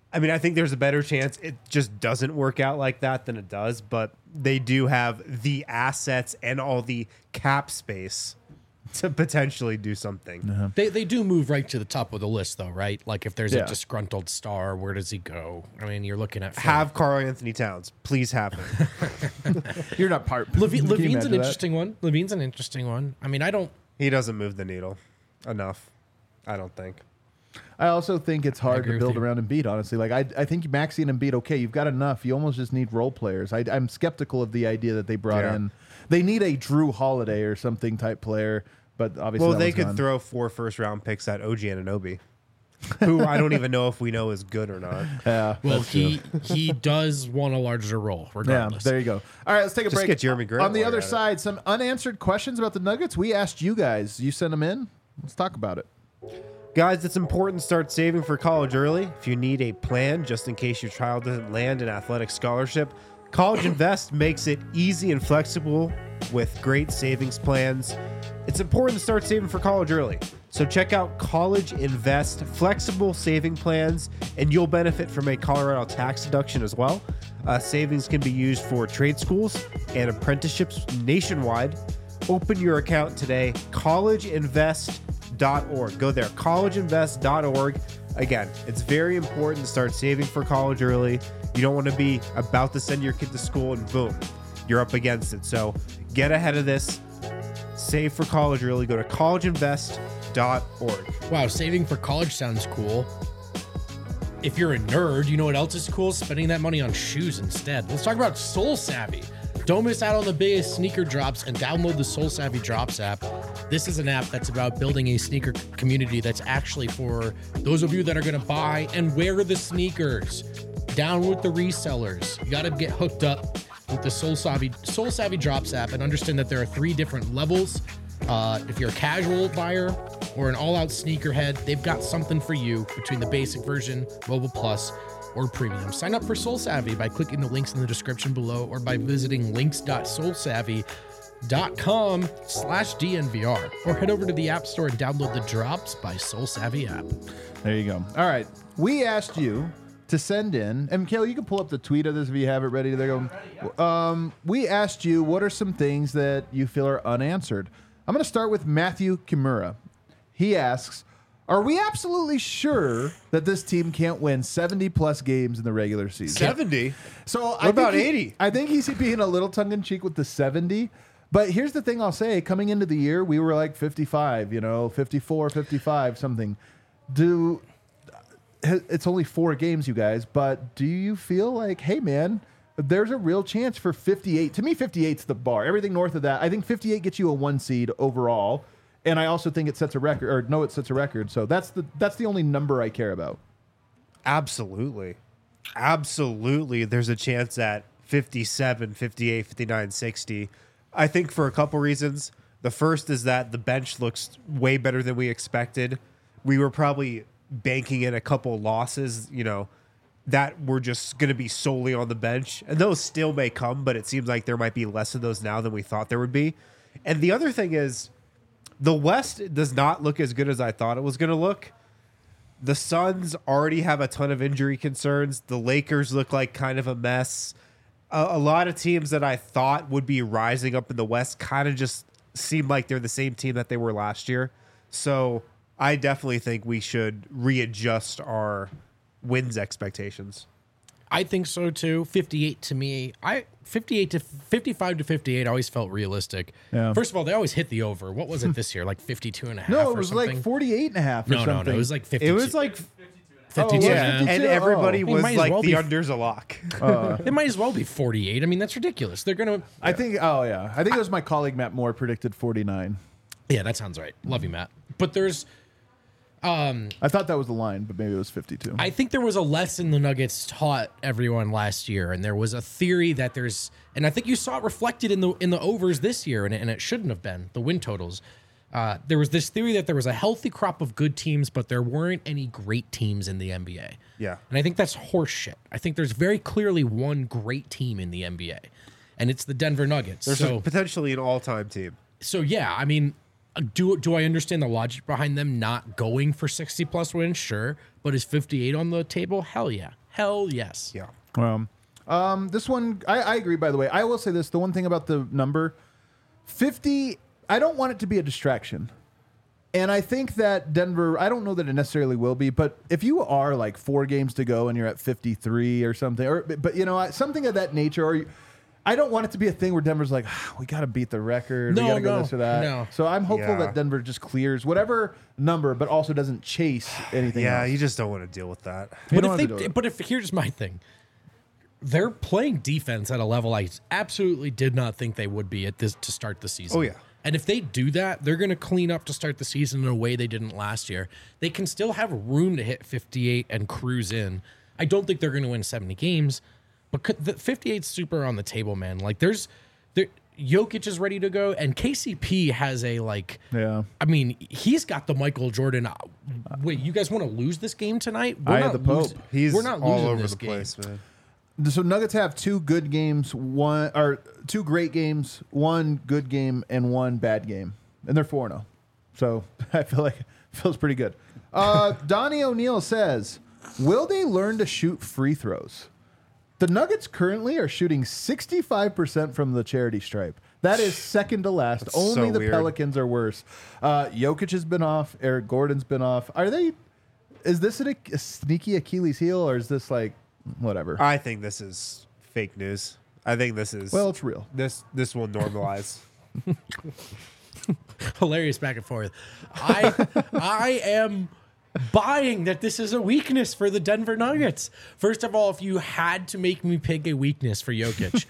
I mean, I think there's a better chance it just doesn't work out like that than it does, but they do have the assets and all the cap space to potentially do something. They do move right to the top of the list, though, right? Like if there's Yeah. a disgruntled star, where does he go? I mean, you're looking at Have Karl Anthony Towns. Please have him. You're not part. Levine's Can you an imagine that? interesting one. Levine's an interesting one. I mean, I don't. He doesn't move the needle enough, I don't think. I also think it's hard agree to with build you. around Embiid, honestly. Like, I think Maxey and Embiid, okay, you've got enough. You almost just need role players. I'm skeptical of the idea that they brought Yeah. in. They need a Drew Holiday or something type player, but obviously Well, that they one's could gone. throw 4 first-round picks at OG Anunoby, who I don't even know if we know is good or not. Yeah, Well, that's true. he does want a larger role, Yeah, regardless. there you go. All right, let's take a Just break. get Jeremy Grant On the while other you're at it. side, some unanswered questions about the Nuggets. We asked you guys. You sent them in. Let's talk about it. Guys, it's important to start saving for college early. If you need a plan just in case your child doesn't land an athletic scholarship, College Invest makes it easy and flexible with great savings plans. It's important to start saving for college early. So check out College Invest flexible saving plans, and you'll benefit from a Colorado tax deduction as well. Savings can be used for trade schools and apprenticeships nationwide. Open your account today, collegeinvest.org. Go there, collegeinvest.org. Again, it's very important to start saving for college early. You don't want to be about to send your kid to school and boom, you're up against it. So get ahead of this. Save for college early. Go to collegeinvest.org. Wow, saving for college sounds cool. If you're a nerd, you know what else is cool? Spending that money on shoes instead. Let's talk about Soul Savvy. Don't miss out on the biggest sneaker drops and download the Soul Savvy Drops app. This is an app that's about building a sneaker community that's actually for those of you that are going to buy and wear the sneakers. Down with the resellers. You got to get hooked up with the Soul Savvy Drops app and understand that there are 3 different levels. If you're a casual buyer or an all-out sneakerhead, they've got something for you between the basic version, Mobile Plus, or Premium. Sign up for Soul Savvy by clicking the links in the description below or by visiting links.soulsavvy.com/DNVR or head over to the App Store and download the Drops by Soul Savvy app. There you go. All right. We asked you to send in, and Mikhail, you can pull up the tweet of this if you have it ready. There you go. We asked you, what are some things that you feel are unanswered? I'm going to start with Matthew Kimura. He asks, are we absolutely sure that this team can't win 70-plus games in the regular season? 70? So What about 80? I think he's being a little tongue-in-cheek with the 70. But here's the thing I'll say. Coming into the year, we were like 55, 54, 55, something. It's only 4 games, you guys, but do you feel like, hey, man, there's a real chance for 58? To me, 58's the bar. Everything north of that, I think 58 gets you a 1 seed overall, and I also think it sets a record, it sets a record. So that's the only number I care about. Absolutely. Absolutely. There's a chance at 57, 58, 59, 60. I think for a couple reasons. The first is that the bench looks way better than we expected. We were probably banking in a couple losses, that were just going to be solely on the bench. And those still may come, but it seems like there might be less of those now than we thought there would be. And the other thing is, the West does not look as good as I thought it was going to look. The Suns already have a ton of injury concerns. The Lakers look like kind of a mess. A lot of teams that I thought would be rising up in the West kind of just seem like they're the same team that they were last year. So I definitely think we should readjust our wins expectations. I think so too. 58 to me, 55 to 58 always felt realistic. Yeah. First of all, they always hit the over. What was it this year? Like 52 and a half No, it or was something? like 48 and a half or No, something. it was like 52. It was like 52 yeah. and a half. 52. and everybody It was might as like well the be- under's a lock. It might as well be 48. I mean, that's ridiculous. They're going to... I think it was my colleague Matt Moore predicted 49. Yeah, that sounds right. Love you, Matt. But there's... I thought that was the line, but maybe it was 52. I think there was a lesson the Nuggets taught everyone last year, and there was a theory that there's... And I think you saw it reflected in the overs this year, and it shouldn't have been, the win totals. There was this theory that there was a healthy crop of good teams, but there weren't any great teams in the NBA. Yeah. And I think that's horseshit. I think there's very clearly one great team in the NBA, and it's the Denver Nuggets. There's potentially an all-time team. So yeah, I mean, Do I understand the logic behind them not going for 60 plus wins? Sure, but is 58 on the table? Hell yeah, hell yes. Yeah. This one, I agree. By the way, I will say this: the one thing about the number 50, I don't want it to be a distraction. And I think that Denver, I don't know that it necessarily will be, but if you are like 4 games to go and you're at 53 or something, but you know, something of that nature, or I don't want it to be a thing where Denver's like, we got to beat the record, we got to go this or that. No. So I'm hopeful Yeah. that Denver just clears whatever number, but also doesn't chase anything Yeah, else. you just don't want to deal with that. You But don't if have to do they, it. but if here's my thing, they're playing defense at a level I absolutely did not think they would be at this to start the season. Oh, yeah. And if they do that, they're going to clean up to start the season in a way they didn't last year. They can still have room to hit 58 and cruise in. I don't think they're going to win 70 games, but the 58's super on the table, man. Like Jokic is ready to go, and KCP has a Yeah. I mean, he's got the Michael Jordan. Wait, you guys want to lose this game tonight? Eye of the Pope. He's we're not all losing over this the game. place, man. So Nuggets have 2 good games, 2 great games, 1 good game, and 1 bad game, and they're 4-0. So I feel like it feels pretty good. Donnie O'Neill says, "Will they learn to shoot free throws?" The Nuggets currently are shooting 65% from the charity stripe. That is second to last. That's Only so the weird. Pelicans are worse. Jokic has been off. Eric Gordon's been off. Is this a sneaky Achilles heel, or is this like whatever? I think this is fake news. I think this is Well, it's real. this will normalize. Hilarious back and forth. I am buying that this is a weakness for the Denver Nuggets. First of all, if you had to make me pick a weakness for Jokic,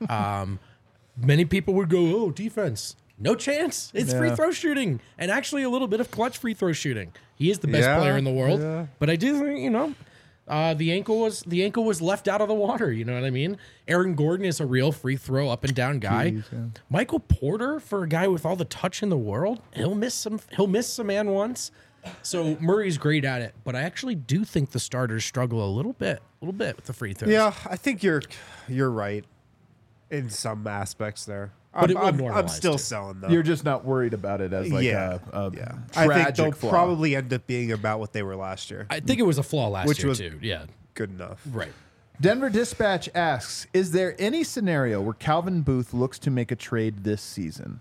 many people would go, "Oh, defense." No chance. It's free throw shooting, and actually a little bit of clutch free throw shooting. He is the best Yeah, player in the world. yeah. But I do think, the ankle was left out of the water. You know what I mean? Aaron Gordon is a real free throw up and down guy. Jeez, yeah. Michael Porter, for a guy with all the touch in the world, he'll miss some man once. So Murray's great at it, but I actually do think the starters struggle a little bit with the free throws. Yeah, I think you're right in some aspects there. But it will I'm normalize, still too. selling though. You're just not worried about it as like yeah, a yeah. I think tragic they'll flaw. probably end up being about what they were last year. I think it was a flaw last Which year was- too. Yeah, Good enough. right. Denver Dispatch asks, "Is there any scenario where Calvin Booth looks to make a trade this season?"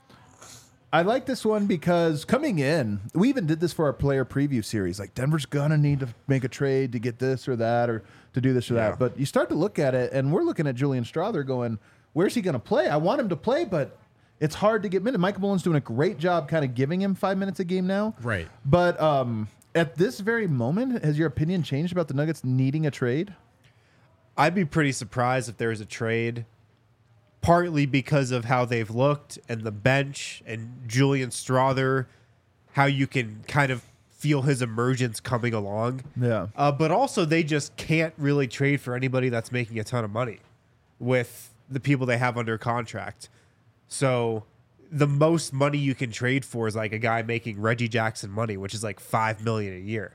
I like this one because coming in, we even did this for our player preview series. Like Denver's gonna need to make a trade to get this or that or to do this or Yeah. that. But you start to look at it, and we're looking at Julian Strawther going, "Where's he gonna play? I want him to play, but it's hard to get minutes." Michael Mullen's doing a great job kind of giving him 5 minutes a game now. Right. But at this very moment, has your opinion changed about the Nuggets needing a trade? I'd be pretty surprised if there was a trade, partly because of how they've looked and the bench and Julian Strawther, how you can kind of feel his emergence coming along. Yeah. But also, they just can't really trade for anybody that's making a ton of money with the people they have under contract. So the most money you can trade for is like a guy making Reggie Jackson money, which is like $5 million a year.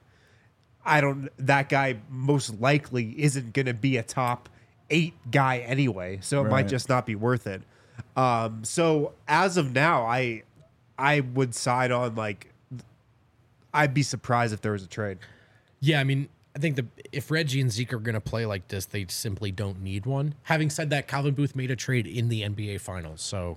That guy most likely isn't going to be a top 8 guy anyway, so it might Right. just not be worth it. So as of now, I would side on I'd be surprised if there was a trade. Yeah, I mean, I think if Reggie and Zeke are going to play like this, they simply don't need one. Having said that, Calvin Booth made a trade in the NBA Finals, so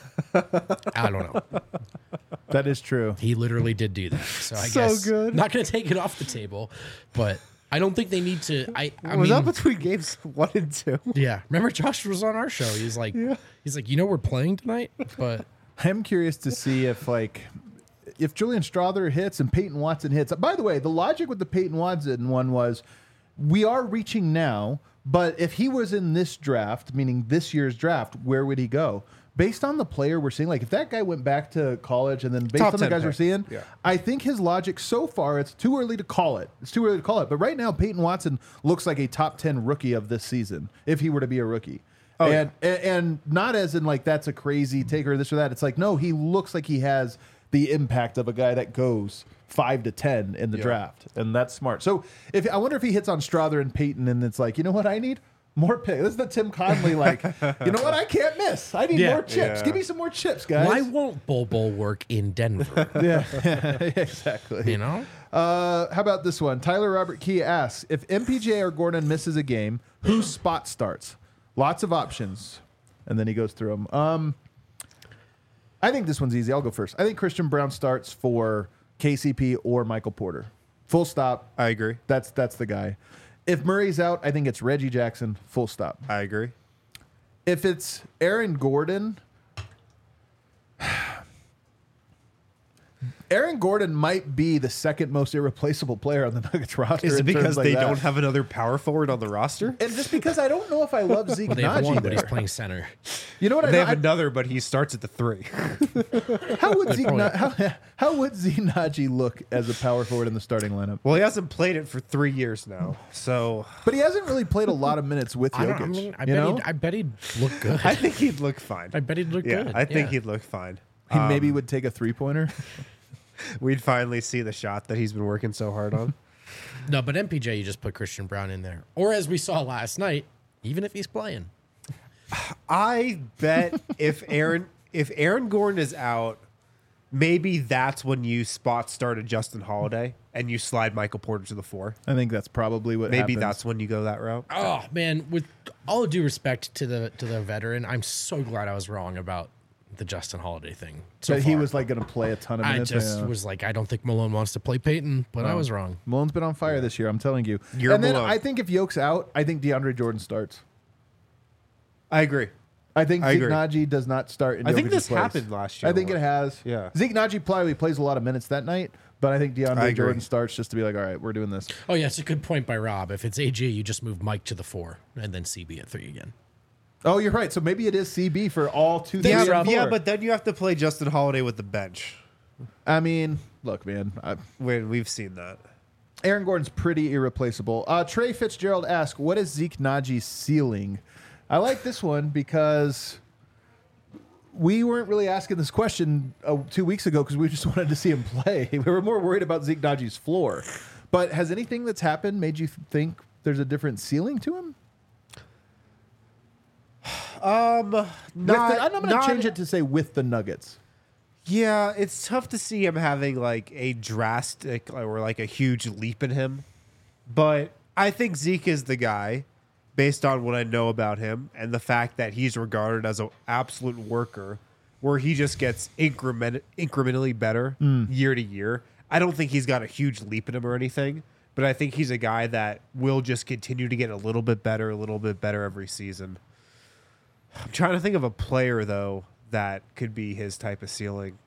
I don't know. That is true. He literally did do that. So I So guess good. not going to take it off the table, but I don't think they need to. I Was mean, that between games 1 and 2? yeah. Remember, Josh was on our show. He's like, we're playing tonight, but I'm curious to see if Julian Strawther hits and Peyton Watson hits. By the way, the logic with the Peyton Watson one was we are reaching now, but if he was in this draft, meaning this year's draft, where would he go? Based on the player we're seeing, like if that guy went back to college and then based Top on the 10 guys we're pick. seeing, Yeah. I think his logic so far, it's too early to call it. It's too early to call it. But right now, Peyton Watson looks like a top 10 rookie of this season, if he were to be a rookie. Oh, And not as in like that's a crazy take or this or that. It's like, no, he looks like he has the impact of a guy that goes 5 to 10 in the draft. And that's smart. So I wonder if he hits on Strawther and Peyton and it's like, you know what I need? More pick. This is the Tim Conley, like, you know what? I can't miss. I need Yeah. more chips. Yeah. Give me some more chips, guys. Why won't Bol Bol work in Denver? Yeah, exactly. You know? How about this one? Tyler Robert Key asks, if MPJ or Gordon misses a game, whose spot starts? Lots of options. And then he goes through them. I think this one's easy. I'll go first. I think Christian Brown starts for KCP or Michael Porter. Full stop. I agree. That's the guy. If Murray's out, I think it's Reggie Jackson. Full stop. I agree. If it's Aaron Gordon, Aaron Gordon might be the second most irreplaceable player on the Nuggets roster. Is it in terms because like they that. don't have another power forward on the roster? And just because I don't know if I love Zeke Well, they have one, Naji but he's there. playing center. You know what They I, have another, but he starts at the 3. how would Zeke probably- how would Zeke Naji look as a power forward in the starting lineup? Well, he hasn't played it for 3 years now, so But he hasn't really played a lot of minutes with I, Jokic. don't, I mean, you I know? bet he'd look good. I think he'd look fine. I bet he'd look Yeah, good. I think he'd look fine. He maybe would take a 3-pointer. We'd finally see the shot that he's been working so hard on. No, but MPJ, you just put Christian Brown in there. Or as we saw last night, even if he's playing. I bet if Aaron Gordon is out, maybe that's when you spot start a Justin Holiday and you slide Michael Porter to the 4. I think that's probably what Maybe happens. that's when you go that route. Oh man, with all due respect to the veteran, I'm so glad I was wrong about the Justin Holiday thing. So But he far. was like going to play a ton of I minutes. just Yeah. was like, I don't think Malone wants to play Peyton, but I was wrong. Malone's been on fire this year. I'm telling you. You're and then Malone. I think if Yoke's out, I think DeAndre Jordan starts. I agree. I think I Zeke agree. Naji does not start in I think Jokic's this place. happened last year I think a it lot. has. Yeah. Zeke Naji probably plays a lot of minutes that night, but I think I DeAndre agree. Jordan starts just to be like, all right, we're doing this. Oh yeah, it's a good point by Rob. If it's AG, you just move Mike to the 4 and then CB at 3 again. Oh, you're right. So maybe it is CB for all 2, 3, Yeah, and Rob. 4. yeah, but then you have to play Justin Holiday with the bench. I mean, look, man. When we've seen that. Aaron Gordon's pretty irreplaceable. Trey Fitzgerald asked, what is Zeke Naji's ceiling? I like this one because we weren't really asking this question 2 weeks ago because we just wanted to see him play. We were more worried about Zeke Naji's floor. But has anything that's happened made you think there's a different ceiling to him? I'm going to change it to say with the Nuggets. Yeah, it's tough to see him having like a drastic or like a huge leap in him. But I think Zeke is the guy based on what I know about him and the fact that he's regarded as an absolute worker where he just gets incrementally better year to year. I don't think he's got a huge leap in him or anything, but I think he's a guy that will just continue to get a little bit better every season. I'm trying to think of a player though that could be his type of ceiling.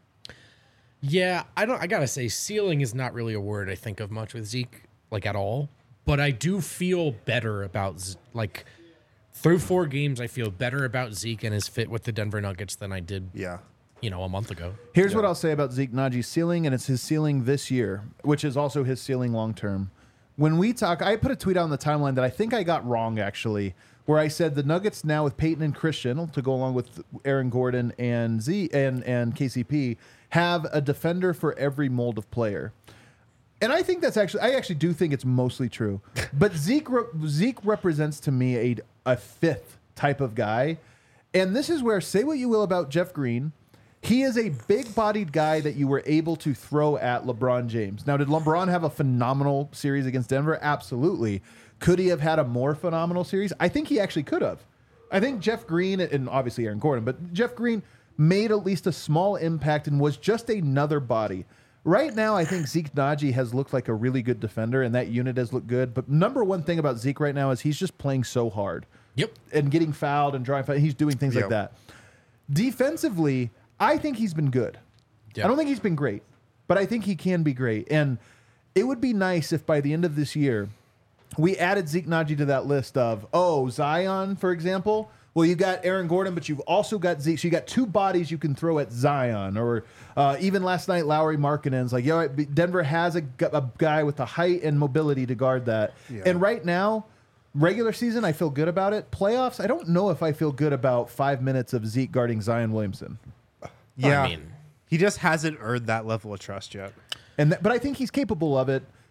Yeah, I gotta say, ceiling is not really a word I think of much with Zeke, like at all. But I do feel better about like through 4 games. I feel better about Zeke and his fit with the Denver Nuggets than I did, Yeah. a month ago. Here's what I'll say about Zeke Naji's ceiling, and it's his ceiling this year, which is also his ceiling long term. When we talk, I put a tweet out on the timeline that I think I got wrong, actually, where I said the Nuggets now with Peyton and Christian to go along with Aaron Gordon and and KCP have a defender for every mold of player. And I think I actually do think it's mostly true. But Zeke represents to me a fifth type of guy. And this is where, say what you will about Jeff Green, he is a big-bodied guy that you were able to throw at LeBron James. Now, did LeBron have a phenomenal series against Denver? Absolutely. Could he have had a more phenomenal series? I think he actually could have. I think Jeff Green, and obviously Aaron Gordon, but Jeff Green made at least a small impact and was just another body. Right now, I think Zeke Naji has looked like a really good defender, and that unit has looked good. But number one thing about Zeke right now is he's just playing so hard. Yep. And getting fouled and drawing foul. He's doing things like Yep. that. Defensively, I think he's been good. Yep. I don't think he's been great, but I think he can be great. And it would be nice if by the end of this year, we added Zeke Naji to that list of, Zion, for example. Well, you got Aaron Gordon, but you've also got Zeke. So you got 2 bodies you can throw at Zion. Or even last night, Lowry Markkanen's like, Denver has a guy with the height and mobility to guard that. Yeah. And right now, regular season, I feel good about it. Playoffs, I don't know if I feel good about 5 minutes of Zeke guarding Zion Williamson. Yeah. I mean, He just hasn't earned that level of trust yet. But I think he's capable of it.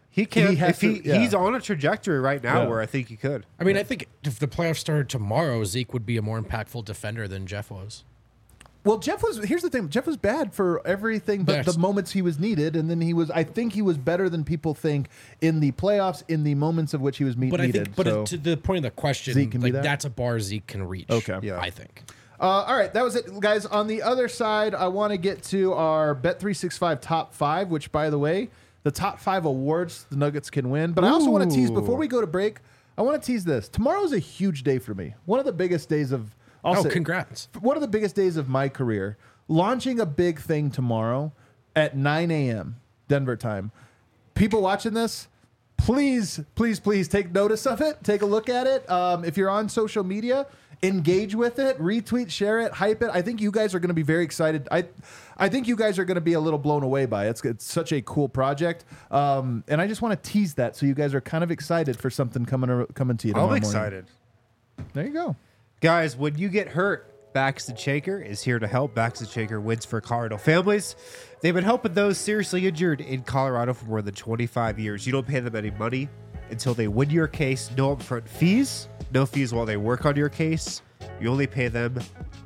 He can. has If he's on a trajectory right now Yeah. where I think he could. I mean, I think if the playoffs started tomorrow, Zeke would be a more impactful defender than Jeff was. Well, here's the thing. Jeff was bad for everything but Yes. the moments he was needed. And then I think he was better than people think in the playoffs, in the moments of which he was But needed. I think, but So- to the point of the question, Zeke can be like that? that's a bar Zeke can reach. Okay. Yeah. I think. All right, that was it, guys. On the other side, I want to get to our Bet365 top 5, which, by the way, the top 5 awards the Nuggets can win. But I also want to tease, before we go to break, I want to tease this. Tomorrow's a huge day for me. One of the biggest days of... Congrats. One of the biggest days of my career. Launching a big thing tomorrow at 9 a.m. Denver time. People watching this, please, please, please take notice of it. Take a look at it. If you're on social media, engage with it, retweet, share it, hype it. I think you guys are going to be very excited. I think you guys are going to be a little blown away by it. It's such a cool project. And I just want to tease that so you guys are kind of excited for something coming to you tomorrow I'm morning. excited. There you go. Guys, when you get hurt, Baxton Shaker is here to help. Baxton Shaker wins for Colorado families. They've been helping those seriously injured in Colorado for more than 25 years. You don't pay them any money until they win your case. No upfront fees. No fees while they work on your case. You only pay them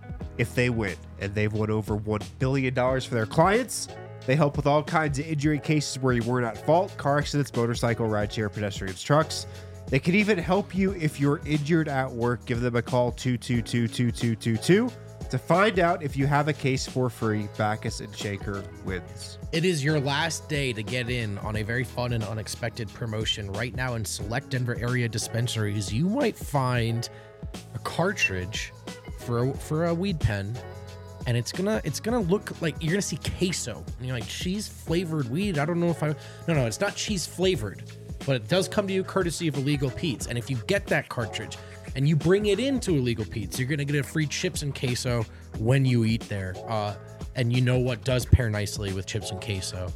if they win. And they've won over $1 billion for their clients. They help with all kinds of injury cases where you weren't at fault. Car accidents, motorcycle, rideshare, pedestrians, trucks. They can even help you if you're injured at work. Give them a call, 222-2222, to find out if you have a case for free. Backus and Shaker wins. It is your last day to get in on a very fun and unexpected promotion. Right now in select Denver area dispensaries, you might find a cartridge for a weed pen, and it's gonna look like you're gonna see queso. And you're like, cheese flavored weed? I don't know if no, it's not cheese flavored, but it does come to you courtesy of Illegal Pete's. And if you get that cartridge and you bring it into Illegal Pete's, you're gonna get a free chips and queso when you eat there. And you know what does pair nicely with chips and queso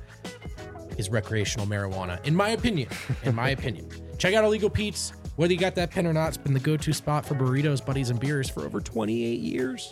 is recreational marijuana, in my opinion. Check out Illegal Pete's. Whether you got that pen or not, it's been the go-to spot for burritos, buddies, and beers for over 28 years.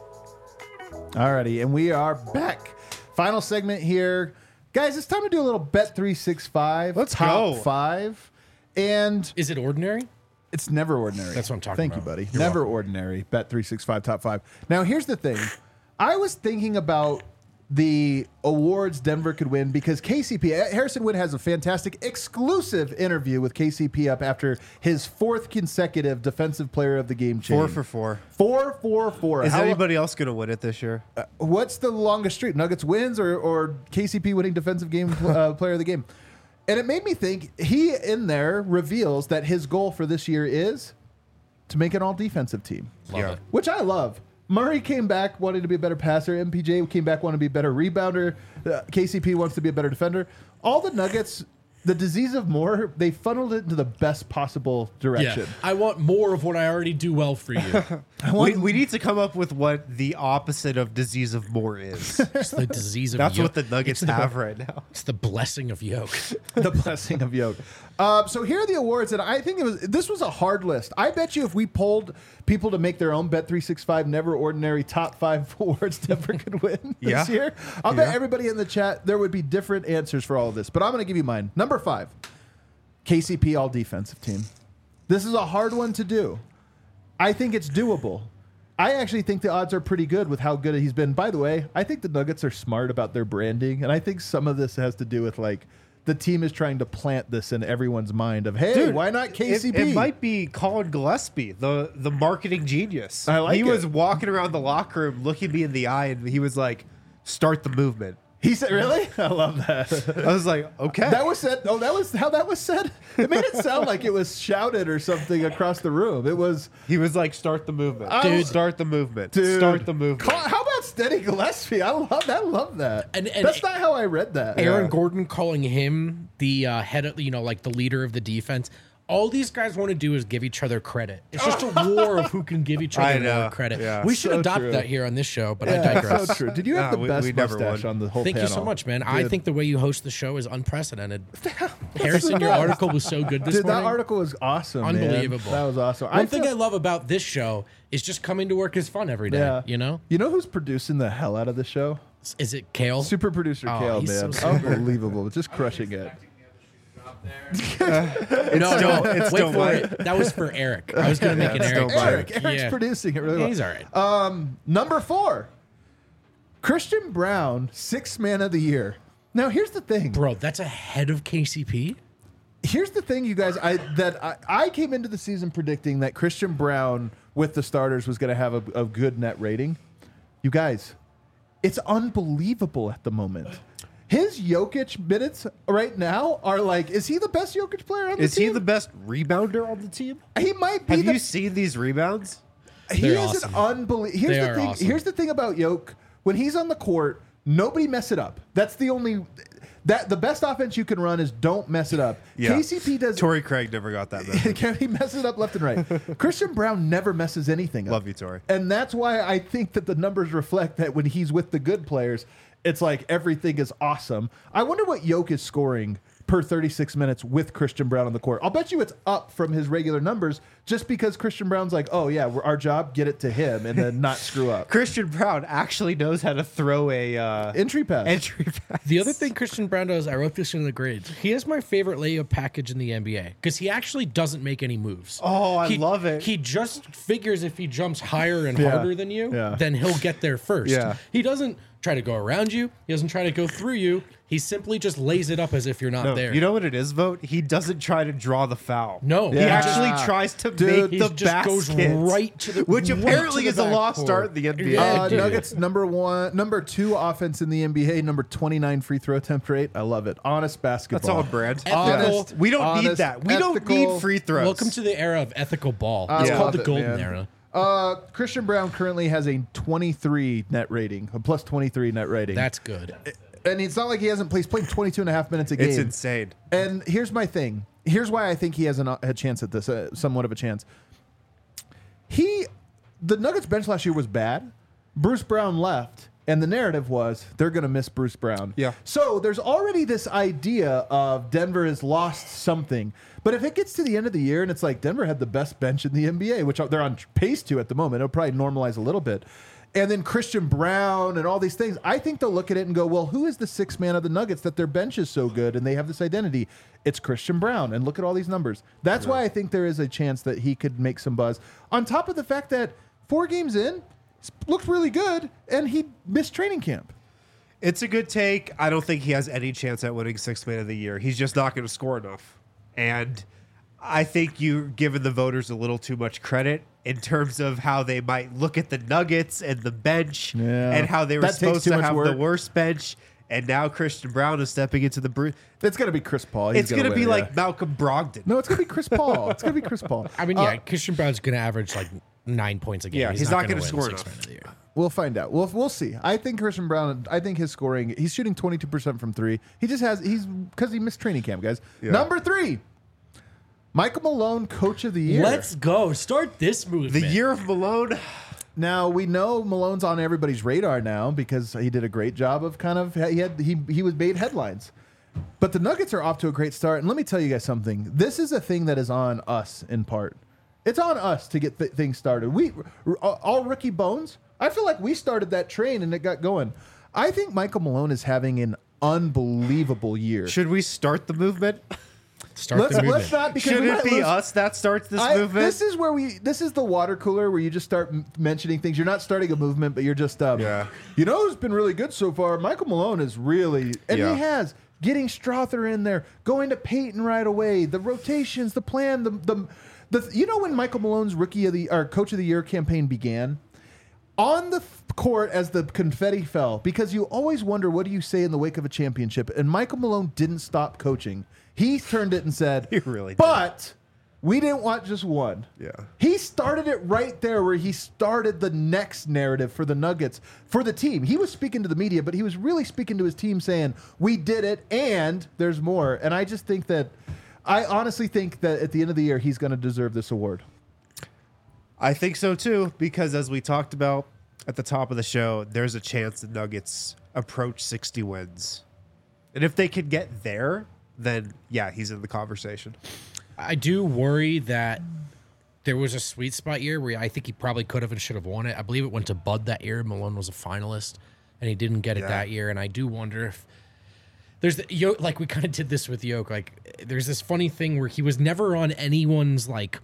Alrighty, and we are back. Final segment here. Guys, it's time to do a little Bet365. Let's top go. 5. And Is it ordinary? it's never ordinary. That's what I'm talking Thank about. you, buddy. You're Never welcome. ordinary. Bet365 top 5. Now, here's the thing. I was thinking about the awards Denver could win because KCP, Harrison Wind has a fantastic exclusive interview with KCP up after his 4th consecutive defensive player of the game chain. 4 for 4. 4 for 4. Is How- anybody else going to win it this year? What's the longest streak? Nuggets wins or KCP winning defensive game player of the game? And it made me think he in there reveals that his goal for this year is to make an all defensive team, Love it. which I love. Murray came back wanting to be a better passer. MPJ came back wanting to be a better rebounder. KCP wants to be a better defender. All the Nuggets, the disease of more, they funneled it into the best possible direction. Yeah. I want more of what I already do well for you. We need to come up with what the opposite of disease of more is. It's the disease of That's yoke. what the Nuggets have right now. It's the blessing of yoke. The blessing of yoke. So here are the awards that I think this was a hard list. I bet you if we polled people to make their own Bet365 Never Ordinary top 5 awards Denver could win this Yeah. year, I'll bet everybody in the chat there would be different answers for all of this. But I'm going to give you mine. Number 5, KCP all defensive team. This is a hard one to do. I think it's doable. I actually think the odds are pretty good with how good he's been. By the way, I think the Nuggets are smart about their branding, and I think some of this has to do with like the team is trying to plant this in everyone's mind of, hey, Dude, why not KCP? It might be Colin Gillespie, the marketing genius. I like he it. was walking around the locker room looking me in the eye, and he was like, "Start the movement." He said, really? I love that. I was like, "Okay." That was said. Oh, that was how that was said. It made it sound like it was shouted or something across the room. It was, He was like, "Start the movement, Dude. Start the movement, dude. start the movement." How about Steady Gillespie? I love that. And that's not how I read that. Aaron Yeah. Gordon calling him the head of, like the leader of the defense. All these guys want to do is give each other credit. It's just a war of who can give each I other know. more credit. Yeah. We should So adopt true. that here on this show, but I Yeah, digress. so true. Did you have Nah, the best we never mustache won. on the whole Thank panel? you so much, man. I Dude. think the way you host the show is unprecedented. Harrison, your article was so good this Dude, morning. that article was awesome. man. Unbelievable. That was awesome. One thing I love about this show is just coming to work is fun every day. Yeah. You know? You know who's producing the hell out of the show? Is it Kale? Super producer Oh, Kale, he's man. so super. Unbelievable. Just crushing it. No, it's wait still for mine. it. That was for Eric. I was going to make an it's Eric. still mine. joke. Eric's producing it really Yeah, well. he's all right. Number 4, Christian Brown, 6th man of the year. Now, here's the thing. Bro, that's ahead of KCP? Here's the thing, you guys. I came into the season predicting that Christian Brown with the starters was going to have a good net rating. You guys, it's unbelievable at the moment. His Jokic minutes right now are like, is he the best Jokic player on the Is team? he the best rebounder on the team? He might be. Have you seen these rebounds? He They're is awesome. an unbelievable. Here's They the are thing. awesome. Here's the thing about Yoke. When he's on the court, nobody mess it up. That's the only. That the best offense you can run is don't mess it up. Yeah. KCP does. Torrey Craig never got that message. He messes it up left and right. Christian Brown never messes anything up. Love you, Torrey. And that's why I think that the numbers reflect that when he's with the good players, it's like everything is awesome. I wonder what Yoke is scoring per 36 minutes with Christian Brown on the court. I'll bet you it's up from his regular numbers just because Christian Brown's like, oh, yeah, our job, get it to him and then not screw up. Christian Brown actually knows how to throw a Entry pass. entry pass. The other thing Christian Brown does, I wrote this in the grades. He has my favorite layup package in the NBA because he actually doesn't make any moves. Oh, I love it. He just figures if he jumps higher and Yeah. harder than you, Yeah. then he'll get there first. Yeah. He doesn't try to go around you. He doesn't try to go through you. He simply just lays it up as if you're not No, there. you know what it is, Vote? He doesn't try to draw the foul. No. He Yeah. actually tries to Dude, make he the just goes basket, right to the which right apparently to is the a lost backcourt. start in the NBA. Yeah, dude. Nuggets number 2 offense in the NBA, number 29 free throw attempt rate. I love it. Honest basketball. That's all brand. Ethical. Honest, We don't need honest, that. We don't ethical. need free throws. Welcome to the era of ethical ball. It's I called love the it, golden man. era. Christian Brown currently has a 23 net rating, a plus 23 net rating. That's good. And it's not like he hasn't played. He's playing 22 and a half minutes a game. It's insane. And here's my thing. Here's why I think he has a chance at this, somewhat of a chance. The Nuggets bench last year was bad. Bruce Brown left, and the narrative was they're going to miss Bruce Brown. Yeah. So there's already this idea of Denver has lost something. But if it gets to the end of the year and it's like Denver had the best bench in the NBA, which they're on pace to at the moment, it'll probably normalize a little bit. And then Christian Brown and all these things, I think they'll look at it and go, well, who is the 6th man of the Nuggets that their bench is so good and they have this identity? It's Christian Brown. And look at all these numbers. That's why I think there is a chance that he could make some buzz. On top of the fact that 4 games in, looked really good, and he missed training camp. It's a good take. I don't think he has any chance at winning 6th man of the year. He's just not going to score enough. And I think you're giving the voters a little too much credit in terms of how they might look at the Nuggets and the bench and how they were That takes supposed too to much have work. the worst bench. And now Christian Brown is stepping into the It's going to be Chris Paul. He's It's going to win, be yeah. like Malcolm Brogdon. No, it's going to be Chris Paul. It's going to be Chris Paul. I mean, Christian Brown's going to average like 9 points a game. Yeah, he's not going gonna to score win enough. 6th man of the year. We'll find out. We'll see. I think Christian Brown, I think his scoring, he's shooting 22% from 3. Because he missed training camp, guys. Yeah. Number 3, Michael Malone, Coach of the Year. Let's go. Start this movement. The year of Malone. Now we know Malone's on everybody's radar now because he did a great job of he was made headlines. But the Nuggets are off to a great start, and let me tell you guys something. This is a thing that is on us in part. It's on us to get things started. All rookie bones. I feel like we started that train and it got going. I think Michael Malone is having an unbelievable year. Should we start the movement? Start the movement. Let's not because Should we it might be lose- us that starts this movement? This is the water cooler where you just start mentioning things. You're not starting a movement, but you're just Yeah. You know who's been really good so far? Michael Malone is really, and Yeah. he has getting Strother in there, going to Peyton right away. The rotations, the plan, the you know when Michael Malone's Coach of the Year campaign began. On the court as the confetti fell, because you always wonder what do you say in the wake of a championship, and Michael Malone didn't stop coaching. He turned it and said, He really did. But we didn't want just one. Yeah. He started it right there where he started the next narrative for the Nuggets, for the team. He was speaking to the media, but he was really speaking to his team saying, we did it and there's more. And I honestly think that at the end of the year, he's going to deserve this award. I think so too, because as we talked about at the top of the show, there's a chance the Nuggets approach 60 wins. And if they could get there, then yeah, he's in the conversation. I do worry that there was a sweet spot year where I think he probably could have and should have won it. I believe it went to Bud that year. Malone was a finalist, and he didn't get it Yeah. that year. And I do wonder if There's like we kind of did this with Yoke. Like there's this funny thing where he was never on anyone's like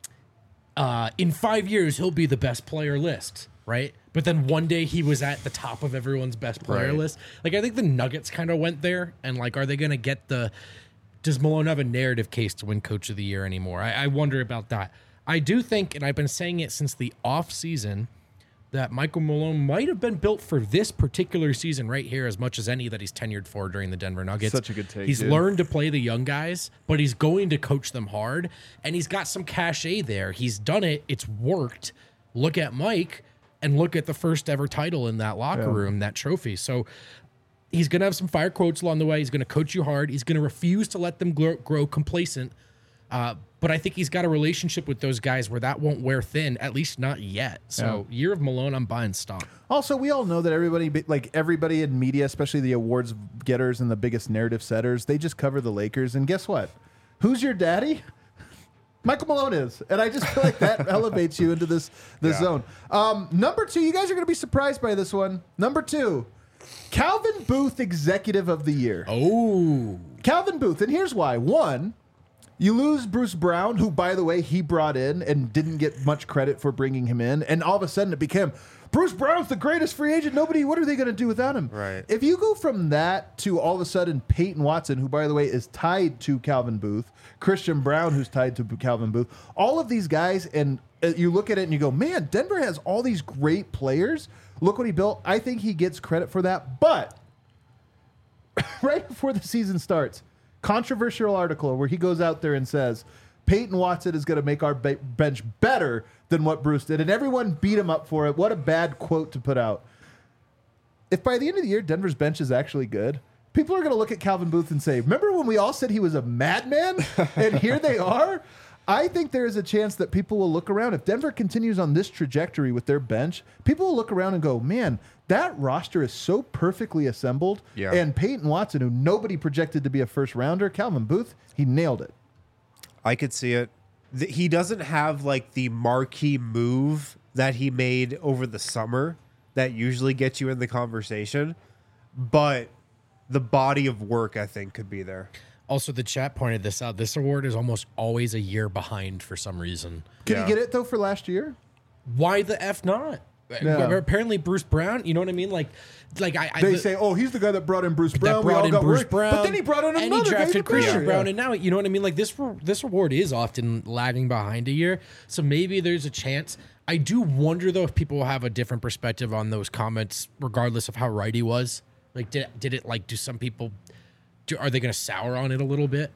in 5 years he'll be the best player list, right? But then one day he was at the top of everyone's best player list. Like I think the Nuggets kind of went there, and like, are they going to get does Malone have a narrative case to win Coach of the Year anymore? I wonder about that. I do think, and I've been saying it since the off season, that Michael Malone might have been built for this particular season right here as much as any that he's tenured for during the Denver Nuggets. Such a good take, He's dude. learned to play the young guys, but he's going to coach them hard, and he's got some cachet there. He's done it. It's worked. Look at Mike, and look at the first ever title in that locker room, that trophy. So he's going to have some fire quotes along the way. He's going to coach you hard. He's going to refuse to let them grow complacent. But I think he's got a relationship with those guys where that won't wear thin, at least not yet. So year of Malone, I'm buying stock. Also, we all know that everybody in media, especially the awards getters and the biggest narrative setters, they just cover the Lakers. And guess what? Who's your daddy? Michael Malone is. And I just feel like that elevates you into this zone. Number 2, you guys are going to be surprised by this one. Number 2, Calvin Booth, Executive of the Year. Oh. Calvin Booth. And here's why. 1, you lose Bruce Brown, who, by the way, he brought in and didn't get much credit for bringing him in. And all of a sudden it became, Bruce Brown's the greatest free agent. What are they going to do without him? Right. If you go from that to all of a sudden Peyton Watson, who, by the way, is tied to Calvin Booth, Christian Brown, who's tied to Calvin Booth, all of these guys, and you look at it and you go, man, Denver has all these great players. Look what he built. I think he gets credit for that. But right before the season starts, controversial article where he goes out there and says, Peyton Watson is going to make our bench better than what Bruce did. And everyone beat him up for it. What a bad quote to put out. If by the end of the year, Denver's bench is actually good, people are going to look at Calvin Booth and say, remember when we all said he was a madman? And here they are. I think there is a chance that people will look around. If Denver continues on this trajectory with their bench, people will look around and go, man, that roster is so perfectly assembled. Yeah. And Peyton Watson, who nobody projected to be a first rounder, Calvin Booth, he nailed it. I could see it. He doesn't have like the marquee move that he made over the summer that usually gets you in the conversation, but the body of work, I think, could be there. Also, the chat pointed this out. This award is almost always a year behind for some reason. Could Yeah. he get it, though, for last year? Why the F not? Yeah. Apparently, Bruce Brown, you know what I mean? Like They say, oh, he's the guy that brought in Bruce Brown. that We brought all in got Bruce worried. Brown. But then he brought in and another he guy. drafted Christian Yeah. Brown, and now you know what I mean. Like this award is often lagging behind a year, so maybe there's a chance. I do wonder though if people will have a different perspective on those comments, regardless of how right he was. Like, did it like? Do some people? Are they going to sour on it a little bit?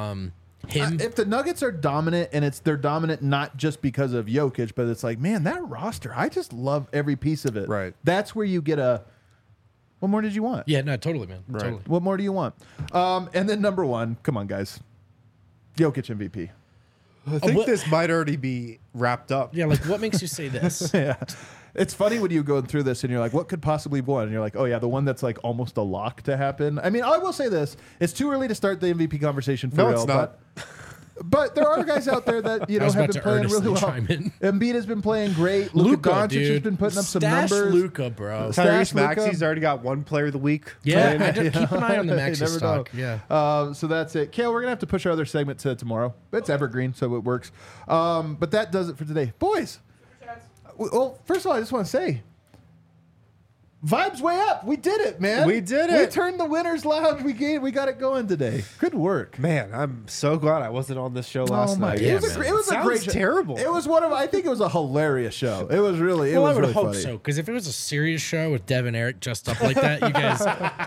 If the Nuggets are dominant, and they're dominant not just because of Jokic, but it's like, man, that roster, I just love every piece of it. Right. That's where you get a. What more did you want? Yeah, no, totally, man. Totally. What more do you want? And then number 1, come on, guys, Jokic MVP. I think what- this might already be wrapped up. Yeah, like what makes you say this? Yeah. It's funny when you go through this and you're like, what could possibly win? And you're like, oh, yeah, the one that's like almost a lock to happen. I mean, I will say this. It's too early to start the MVP conversation for No, real. it's not. But there are guys out there that, I have was about been to playing really earnestly well. chime in. Embiid has been playing great. Luka Doncic dude. has been putting up some Stash numbers. Luka, bro. Stash Tyrese Luka. Maxey's already got one player of the week. Yeah, playing. I just keep an eye on the You Maxi never stock. know. Yeah. So that's it. Kale, we're going to have to push our other segment to tomorrow. It's evergreen, so it works. But that does it for today. Boys, well, first of all, I just want to say, vibes way up. We did it, man. We did We it. turned the winners lounge. We got it going today. Good work. Man, I'm so glad I wasn't on this show last Oh my! night. Yeah, it was, man. it was a Sounds great show. terrible. It was one of. I think it was a hilarious show. It was really. It Well, I was would really hope funny. so, because if it was a serious show with Dev and Eric dressed up like that, you guys,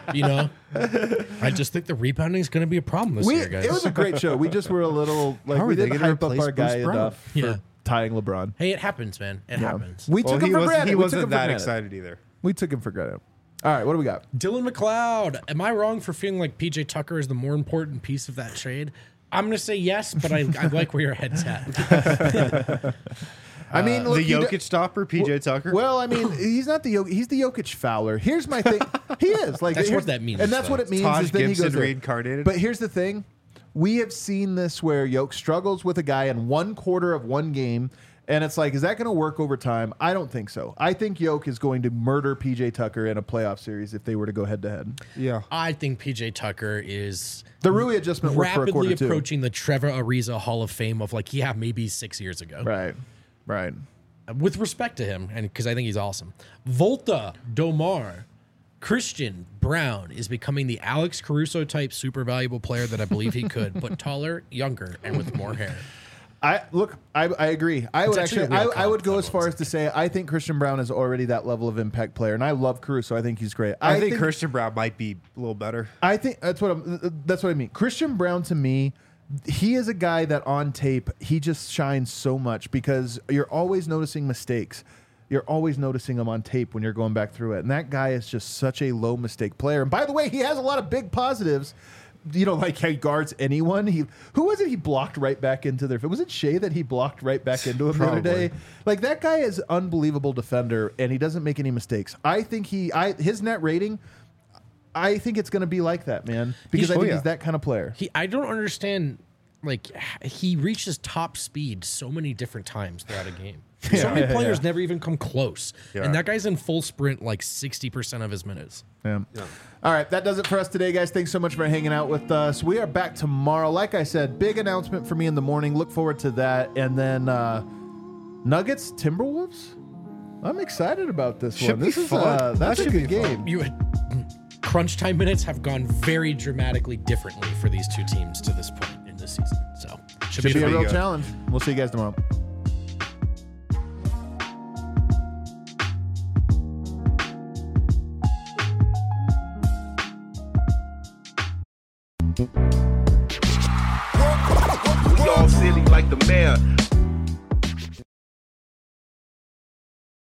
I just think the rebounding is going to be a problem this year, guys. It was a great show. We just were a little like How are we they didn't gonna hype up replace our guy Bruce Brown? enough Yeah. for tying LeBron. Hey, it happens, man. It happens. We Well, took him for granted. he We took wasn't him for that granted. excited either. We took him for granted. All right, what do we got? Dylan McLeod. Am I wrong for feeling like PJ Tucker is the more important piece of that trade? I'm going to say yes, but I like where your head's at. I mean, look, The Jokic stopper, PJ Tucker. Well, I mean, he's not the he's the Jokic Fowler. Here's my thing. He is like That's here's- what that means, and that's though. what it means. Taj is that he Gibson goes there. reincarnated. But here's the thing: we have seen this where Jokic struggles with a guy in one quarter of one game, And it's like, is that going to work over time? I don't think so. I think Yoke is going to murder PJ Tucker in a playoff series if they were to go head to head. Yeah. I think PJ Tucker is The Rui adjustment worked for a rapidly quarter approaching the Trevor Ariza Hall of Fame of like, yeah, maybe 6 years ago. Right. Right. With respect to him, and because I think he's awesome. Volta Domar, Christian Brown is becoming the Alex Caruso type super valuable player that I believe he could, but taller, younger, and with more hair. I agree. I would actually actually a real I would go comp, as far as to say I think Christian Brown is already that level of impact player, and I love Caruso. I think he's great. I think Christian Brown might be a little better. I think that's what I mean. Christian Brown, to me, he is a guy that on tape he just shines so much because you're always noticing mistakes. You're always noticing them on tape when you're going back through it, and that guy is just such a low mistake player. And by the way, he has a lot of big positives. You know, like he guards anyone. Who was it? He blocked right back into their. Was it Shea that he blocked right back into him the other day? Like that guy is an unbelievable defender, and he doesn't make any mistakes. I think his net rating. I think it's going to be like that, man, because I think he's that kind of player. I don't understand. Like he reaches top speed so many different times throughout a game. So many players never even come close, and that guy's in full sprint like 60% of his minutes. Yeah. All right, that does it for us today, guys. Thanks so much for hanging out with us. We are back tomorrow. Like I said, big announcement for me in the morning. Look forward to that. And then Nuggets, Timberwolves. I'm excited about this one. This is fun. that's a good game. Crunch time minutes have gone very dramatically differently for these two teams to this point in this season. So Should be a real challenge. We'll see you guys tomorrow. We all silly like the mayor.